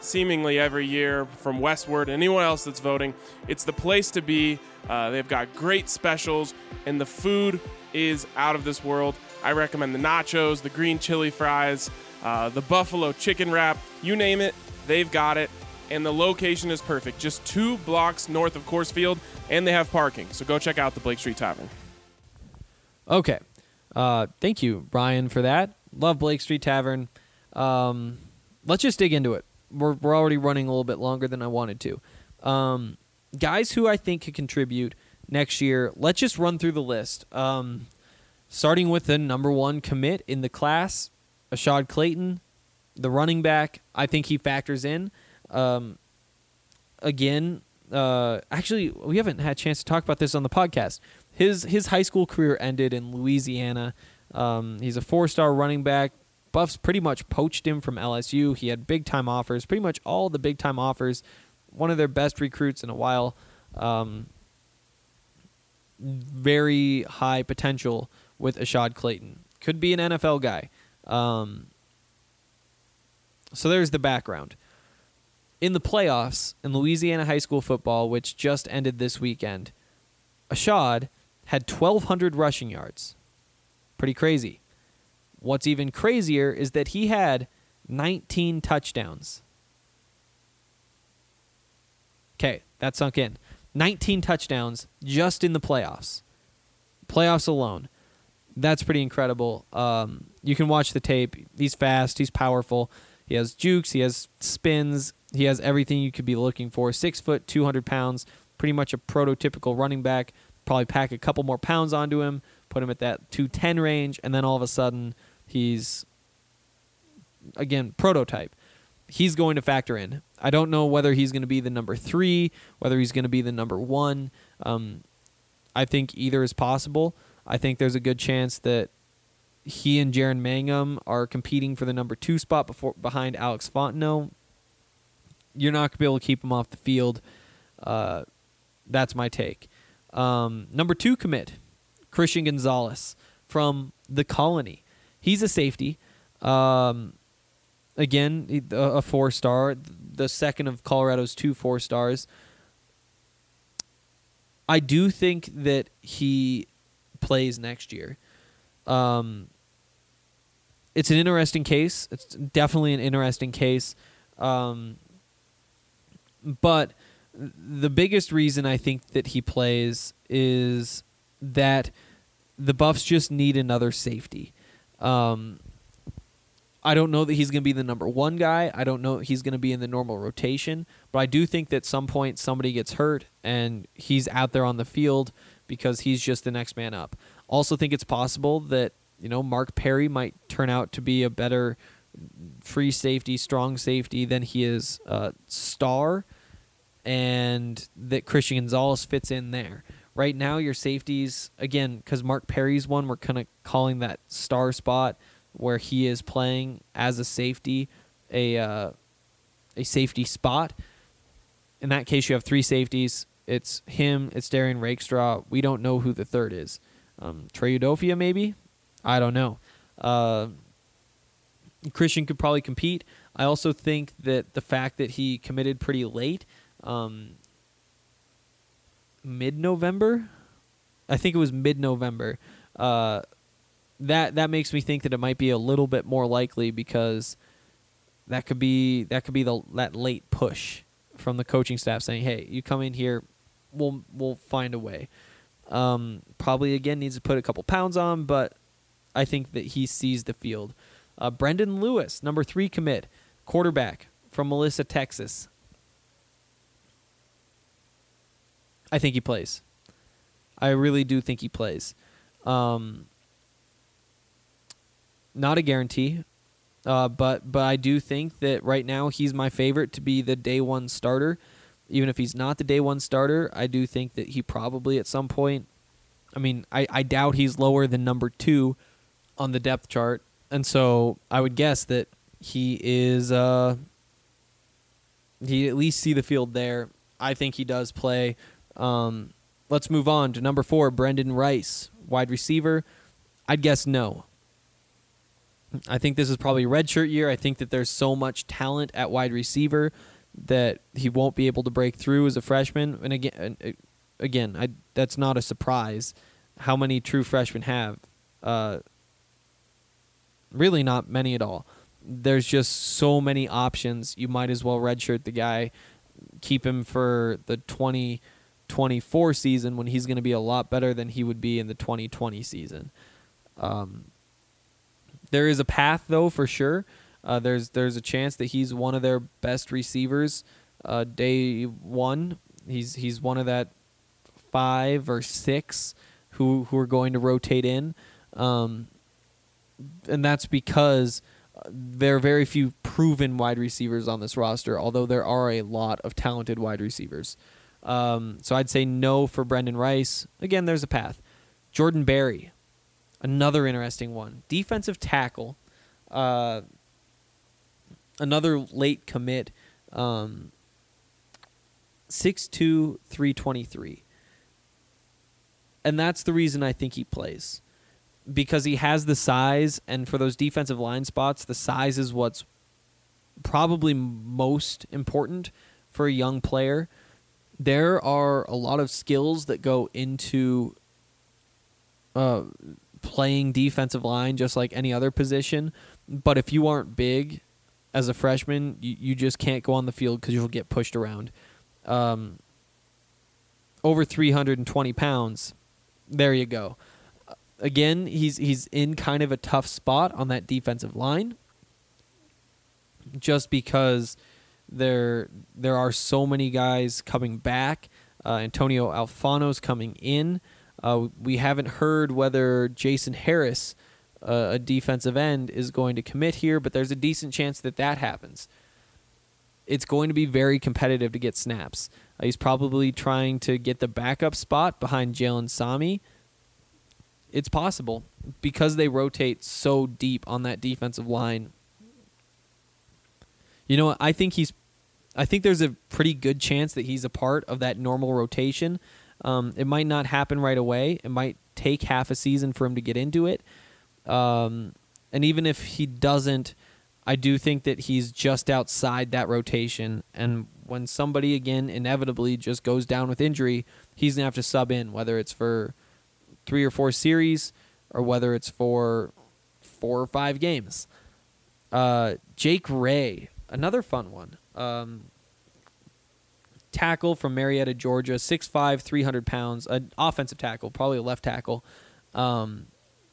seemingly every year from Westward, anyone else that's voting. It's the place to be. Uh, they've got great specials, and the food is out of this world. I recommend the nachos, the green chili fries, uh, the buffalo chicken wrap, you name it, they've got it. And the location is perfect, just two blocks north of Coors Field, and they have parking. So go check out the Blake Street Tavern. Okay. Uh, thank you, Brian, for that. Love Blake Street Tavern. Um, let's just dig into it. We're, we're already running a little bit longer than I wanted to. Um, guys who I think could contribute next year, let's just run through the list. Um, starting with the number one commit in the class, Ashad Clayton, the running back. I think he factors in. Um, again, uh, actually, we haven't had a chance to talk about this on the podcast. His his high school career ended in Louisiana. Um, he's a four-star running back. Buffs pretty much poached him from L S U. He had big-time offers, pretty much all the big-time offers. One of their best recruits in a while. Um, very high potential with Ashad Clayton. Could be an N F L guy. Um, so there's the background. In the playoffs in Louisiana high school football, which just ended this weekend, Ashad had twelve hundred rushing yards. Pretty crazy. What's even crazier is that he had nineteen touchdowns. Okay, that sunk in. nineteen touchdowns just in the playoffs. Playoffs alone. That's pretty incredible. Um, you can watch the tape. He's fast. He's powerful. He has jukes. He has spins. He has everything you could be looking for. Six foot, two hundred pounds. Pretty much a prototypical running back. Probably pack a couple more pounds onto him. Put him at that two ten range. And then all of a sudden, he's, again, prototype. He's going to factor in. I don't know whether he's going to be the number three, whether he's going to be the number one. Um, I think either is possible. I think there's a good chance that he and Jaron Mangum are competing for the number two spot before behind Alex Fontenot. You're not going to be able to keep him off the field. Uh, that's my take. Um, number two commit, Christian Gonzalez from the Colony. He's a safety. Um, again, a four-star, the second of Colorado's two four-stars. I do think that he plays next year. Um, it's an interesting case. It's definitely an interesting case. Um, but the biggest reason I think that he plays is that the Buffs just need another safety. Um, I don't know that he's going to be the number one guy. I don't know he's going to be in the normal rotation. But I do think that at some point somebody gets hurt and he's out there on the field because he's just the next man up. Also think it's possible that, you know, Mark Perry might turn out to be a better free safety, strong safety than he is uh, star, and that Christian Gonzalez fits in there. Right now, your safeties, again, because Mark Perry's one, we're kind of calling that star spot where he is playing as a safety, a uh, a safety spot. In that case, you have three safeties. It's him, it's Darian Rakestraw. We don't know who the third is. Um, Trey Udofia, maybe? I don't know. Uh, Christian could probably compete. I also think that the fact that he committed pretty late, um, mid-November, I think it was mid-November, uh, that that makes me think that it might be a little bit more likely because that could be that could be the that late push from the coaching staff saying, "Hey, you come in here, we'll we'll find a way." Um, probably again needs to put a couple pounds on, but I think that he sees the field. Uh, Brendan Lewis, number three commit, quarterback from Melissa, Texas. I think he plays. I really do think he plays. Um, not a guarantee, uh, but but I do think that right now he's my favorite to be the day one starter. Even if he's not the day one starter, I do think that he probably at some point, I mean, I, I doubt he's lower than number two on the depth chart. And so I would guess that he is, uh, he at least see the field there. I think he does play. Um, let's move on to number four, Brendan Rice, wide receiver. I'd guess no. I think this is probably redshirt year. I think that there's so much talent at wide receiver that he won't be able to break through as a freshman. And again, again, I, that's not a surprise. How many true freshmen have? Uh, really not many at all. There's just so many options. You might as well redshirt the guy, keep him for the twenty twenty-four season when he's going to be a lot better than he would be in the twenty twenty season. Um, there is a path, though, for sure. Uh, there's there's a chance that he's one of their best receivers uh, day one. He's he's one of that five or six who who are going to rotate in, um, and that's because there are very few proven wide receivers on this roster, although there are a lot of talented wide receivers. Um, so I'd say no for Brendan Rice. Again, there's a path. Jordan Berry, another interesting one. Defensive tackle, uh, another late commit, um, six two, three twenty-three. And that's the reason I think he plays. Because he has the size, and for those defensive line spots, the size is what's probably most important for a young player. There are a lot of skills that go into uh, playing defensive line just like any other position. But if you aren't big as a freshman, you, you just can't go on the field because you'll get pushed around. Um, over three hundred twenty pounds, there you go. Again, he's he's in kind of a tough spot on that defensive line just because there there are so many guys coming back. Uh, Antonio Alfano's coming in. Uh, we haven't heard whether Jason Harris, uh, a defensive end, is going to commit here, but there's a decent chance that that happens. It's going to be very competitive to get snaps. Uh, he's probably trying to get the backup spot behind Jalen Sami. It's possible because they rotate so deep on that defensive line. You know what? I think he's I think there's a pretty good chance that he's a part of that normal rotation. Um, it might not happen right away. It might take half a season for him to get into it. Um, and even if he doesn't, I do think that he's just outside that rotation. And when somebody, again, inevitably just goes down with injury, he's going to have to sub in, whether it's for three or four series or whether it's for four or five games. Uh, Jake Ray, another fun one. Um, tackle from Marietta, Georgia, six five, three hundred pounds, an offensive tackle, probably a left tackle. Um,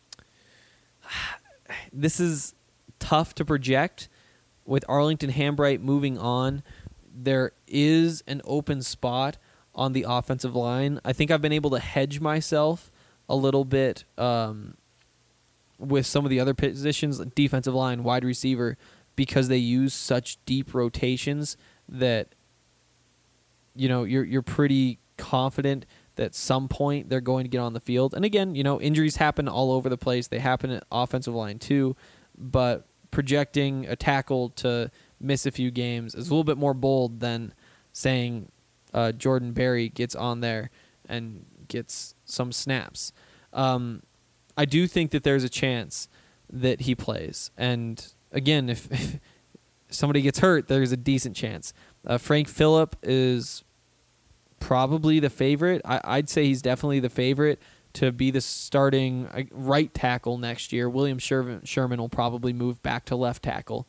this is tough to project. With Arlington Hambright moving on, there is an open spot on the offensive line. I think I've been able to hedge myself a little bit um, with some of the other positions, like defensive line, wide receiver, because they use such deep rotations that, you know, you're you're pretty confident that at some point they're going to get on the field. And again, you know, injuries happen all over the place. They happen at offensive line too, but projecting a tackle to miss a few games is a little bit more bold than saying uh, Jordan Berry gets on there and gets some snaps. Um, I do think that there's a chance that he plays. And again, if, if somebody gets hurt, there's a decent chance. Uh, Frank Phillip is probably the favorite. I, I'd say he's definitely the favorite to be the starting uh, right tackle next year. William Sherman, Sherman will probably move back to left tackle.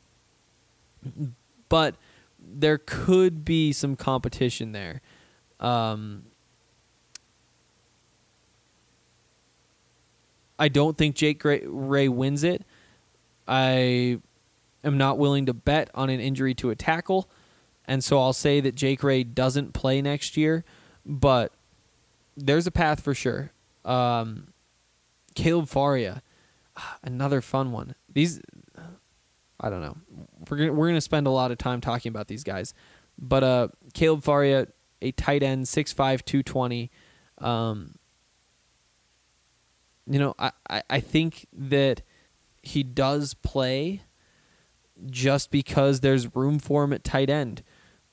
But there could be some competition there. Um, I don't think Jake Ray wins it. I am not willing to bet on an injury to a tackle, and so I'll say that Jake Ray doesn't play next year, but there's a path for sure. Um, Caleb Faria, another fun one. These, I don't know. We're gonna, we're gonna spend a lot of time talking about these guys, but uh, Caleb Faria, a tight end, six five, two twenty. Um, you know, I, I, I think that he does play just because there's room for him at tight end.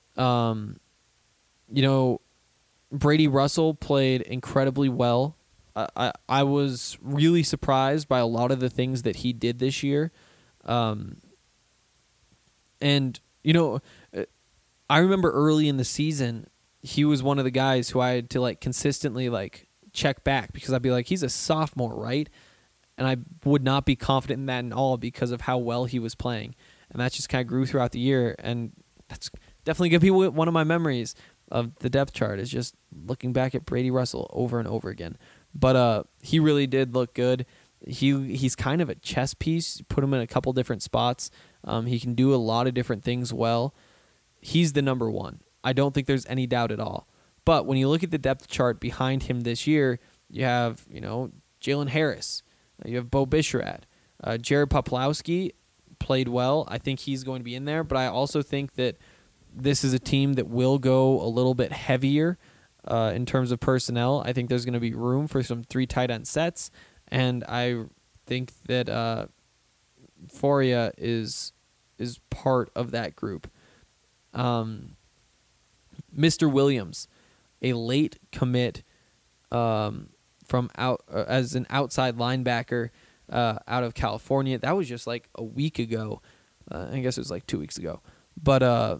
Um, you know, Brady Russell played incredibly well I, I, I was really surprised by a lot of the things that he did this year. Um, and, you know, I remember early in the season, he was one of the guys who I had to like consistently like check back because I'd be like, he's a sophomore, right? And I would not be confident in that at all because of how well he was playing. And that just kind of grew throughout the year. And that's definitely going to be one of my memories of the depth chart, is just looking back at Brady Russell over and over again. But uh, he really did look good. He He's kind of a chess piece. Put him in a couple different spots. Um, he can do a lot of different things well. He's the number one. I don't think there's any doubt at all. But when you look at the depth chart behind him this year, you have, you know, Jalen Harris. You have Bo Bichette. Uh, Jared Poplawski played well. I think he's going to be in there. But I also think that this is a team that will go a little bit heavier uh, in terms of personnel. I think there's going to be room for some three tight end sets. And I think that uh, Foria is is part of that group. Um, Mister Williams, a late commit um, from out uh, as an outside linebacker uh, out of California. That was just like a week ago. Uh, I guess it was like two weeks ago. But uh,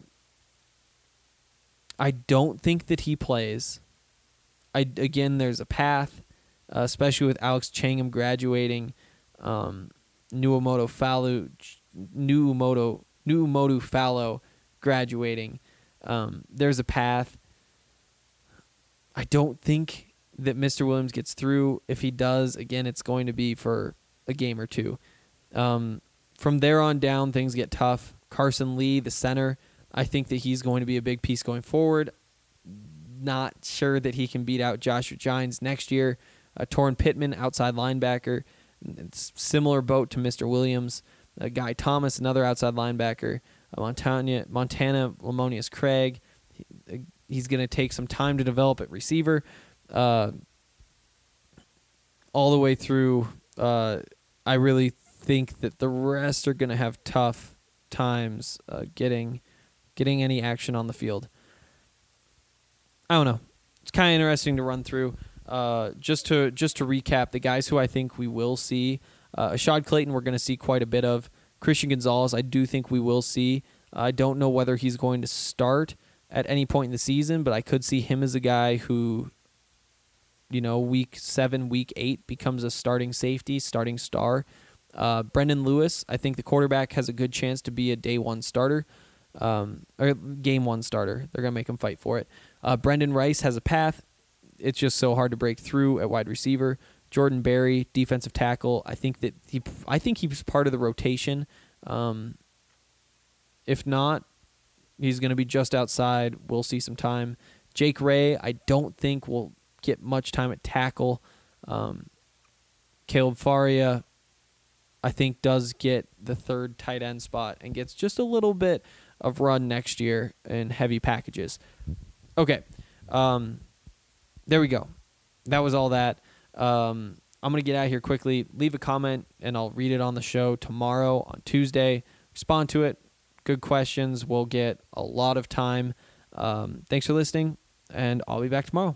I don't think that he plays. I again, there's a path, uh, especially with Alex Changham graduating, um, Nuumoto Fallu, Nuumoto Nuumotu Fallow graduating. Um, there's a path. I don't think that Mister Williams gets through. If he does, again, it's going to be for a game or two. Um, from there on down, things get tough. Carson Lee, the center, I think that he's going to be a big piece going forward. Not sure that he can beat out Joshua Gines next year. Uh, Torrin Pittman, outside linebacker, it's similar boat to Mister Williams. Uh, Guy Thomas, another outside linebacker. Uh, Montana, Montana Lamonius Craig. He, uh, he's going to take some time to develop at receiver. Uh, all the way through, uh, I really think that the rest are going to have tough times uh, getting getting any action on the field. I don't know. It's kind of interesting to run through. Uh, just to just to recap, the guys who I think we will see, uh, Ashad Clayton, we're going to see quite a bit of. Christian Gonzalez, I do think we will see. I don't know whether he's going to start at any point in the season, but I could see him as a guy who, you know, week seven, week eight becomes a starting safety, starting star. Uh, Brendan Lewis, I think the quarterback has a good chance to be a day one starter, um, or game one starter. They're going to make him fight for it. Uh, Brendan Rice has a path. It's just so hard to break through at wide receiver. Jordan Berry, defensive tackle. I think that he, I think he's part of the rotation. Um, if not, he's going to be just outside. We'll see some time. Jake Ray, I don't think will get much time at tackle. Um, Caleb Faria, I think, does get the third tight end spot and gets just a little bit of run next year in heavy packages. Okay. Um, there we go. That was all that. Um, I'm going to get out of here quickly. Leave a comment, and I'll read it on the show tomorrow on Tuesday. Respond to it. Good questions. We'll get a lot of time. Um, thanks for listening, and I'll be back tomorrow.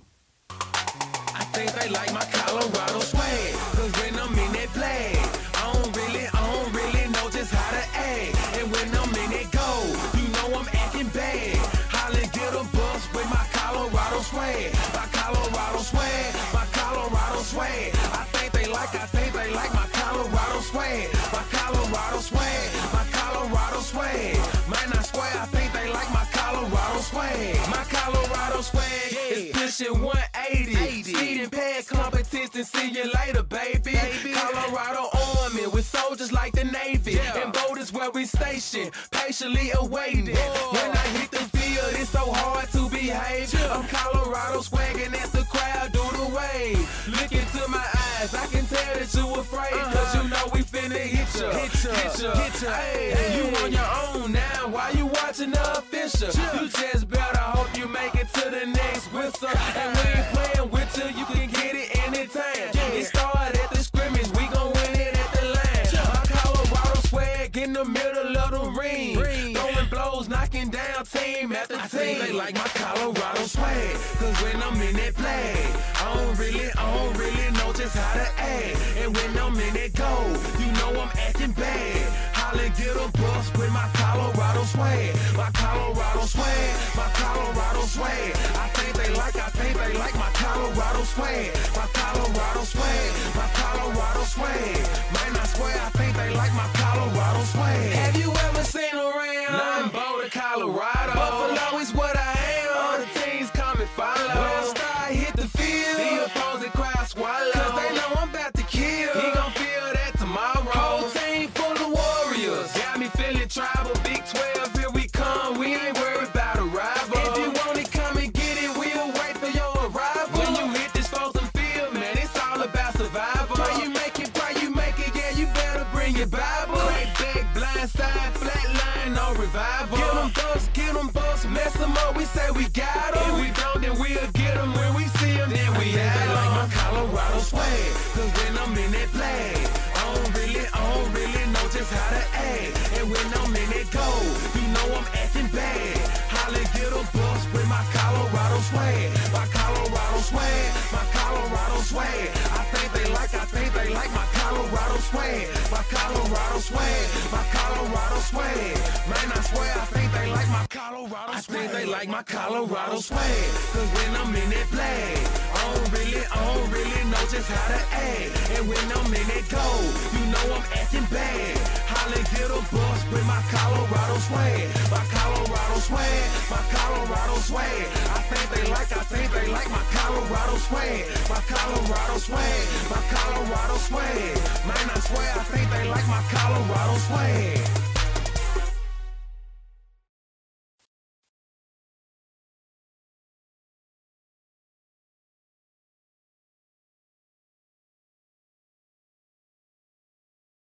I think they like my Colorado swag, 'cause when I'm in that flag, I don't really, I don't really know just how to act. And when I'm in that goal, you know I'm acting bad. Hollin' get a bus with my Colorado swag. My Colorado swag, my Colorado swag. I think they like, I think they like my Colorado swag. My Colorado swag, my Colorado swag. Man, I swear, I think they like my Colorado swag. My Colorado swag is pushing one eighty. Speeding past competition, see you later, baby. baby. Colorado Army with soldiers like the Navy. Yeah. And boat is where we station, patiently awaiting. Whoa. When I hit the field, it's so hard to behave. Yeah. I'm Colorado swagging as the crowd do the wave. Look into my eyes, I can tell that you afraid. Uh-huh. Cause you know we finna hit ya. Hit ya, hit ya, hit ya. Hey, hey. You on your own now, why you watching the official? Yeah. You just better hope you make it to the next whistle. And we ain't playing with you, you can get it anytime. Yeah. It started at the scrimmage, we gon' win it at the line. Yeah. My Colorado swag in the middle of the ring. ring. Throwing blows, knocking down team after I team. They like my Colorado swag, 'cause when I'm in that flag, I don't really, I don't really know just how to act. And when I'm in that gold, you know I'm acting bad. Holla, get a bus with my Colorado swag. My Colorado swag, my Colorado swag. I think they like, I think they like my Colorado swag. My Colorado swag, my Colorado swag. Man, I swear, I think they like my Colorado swag. Have you ever seen around? Nothing Boulder, Colorado. Buffalo is what I am. All the teams come and follow. When I start hit the field, the opposing crowd swallow. Cause they know I'm about to kill. He gon' feel that tomorrow. Whole team full of warriors. Got me feeling tribal. Big twelve, here we come. We ain't worried about a rival. If you want it, come and get it. We'll wait for your arrival. When you hit this frozen field, man, it's all about survival. Pray you make it, pray you make it. Yeah, you better bring your Bible. Crack back, blind side, flat line, no revival. Get them bucks, get them bucks, mess them up. We say we got them. If we don't, then we'll get them. When we see them, then we have them. Like my Colorado swag. Cause when I'm in that flag, I don't really, I don't really know just how to act. And when I'm in that gold, you know I'm acting bad. Holla, get a bus with my Colorado swag. My Colorado swag, my Colorado swag. I think they like, I think they like my Colorado swag. My Colorado swag, my Colorado swag. Man, I swear, I think they like my Colorado swag. I think they like my Colorado swag. Cause when I'm in that flag, I don't really, I don't really know just how to act. And when I'm in that gold, you know I'm acting bad. Holla, get a bus with my Colorado swag. My Colorado swag, my Colorado swag. I think they like, I think they like my Colorado swag. My Colorado swag, my Colorado swag. Man, I swear, I think they like my Colorado swag.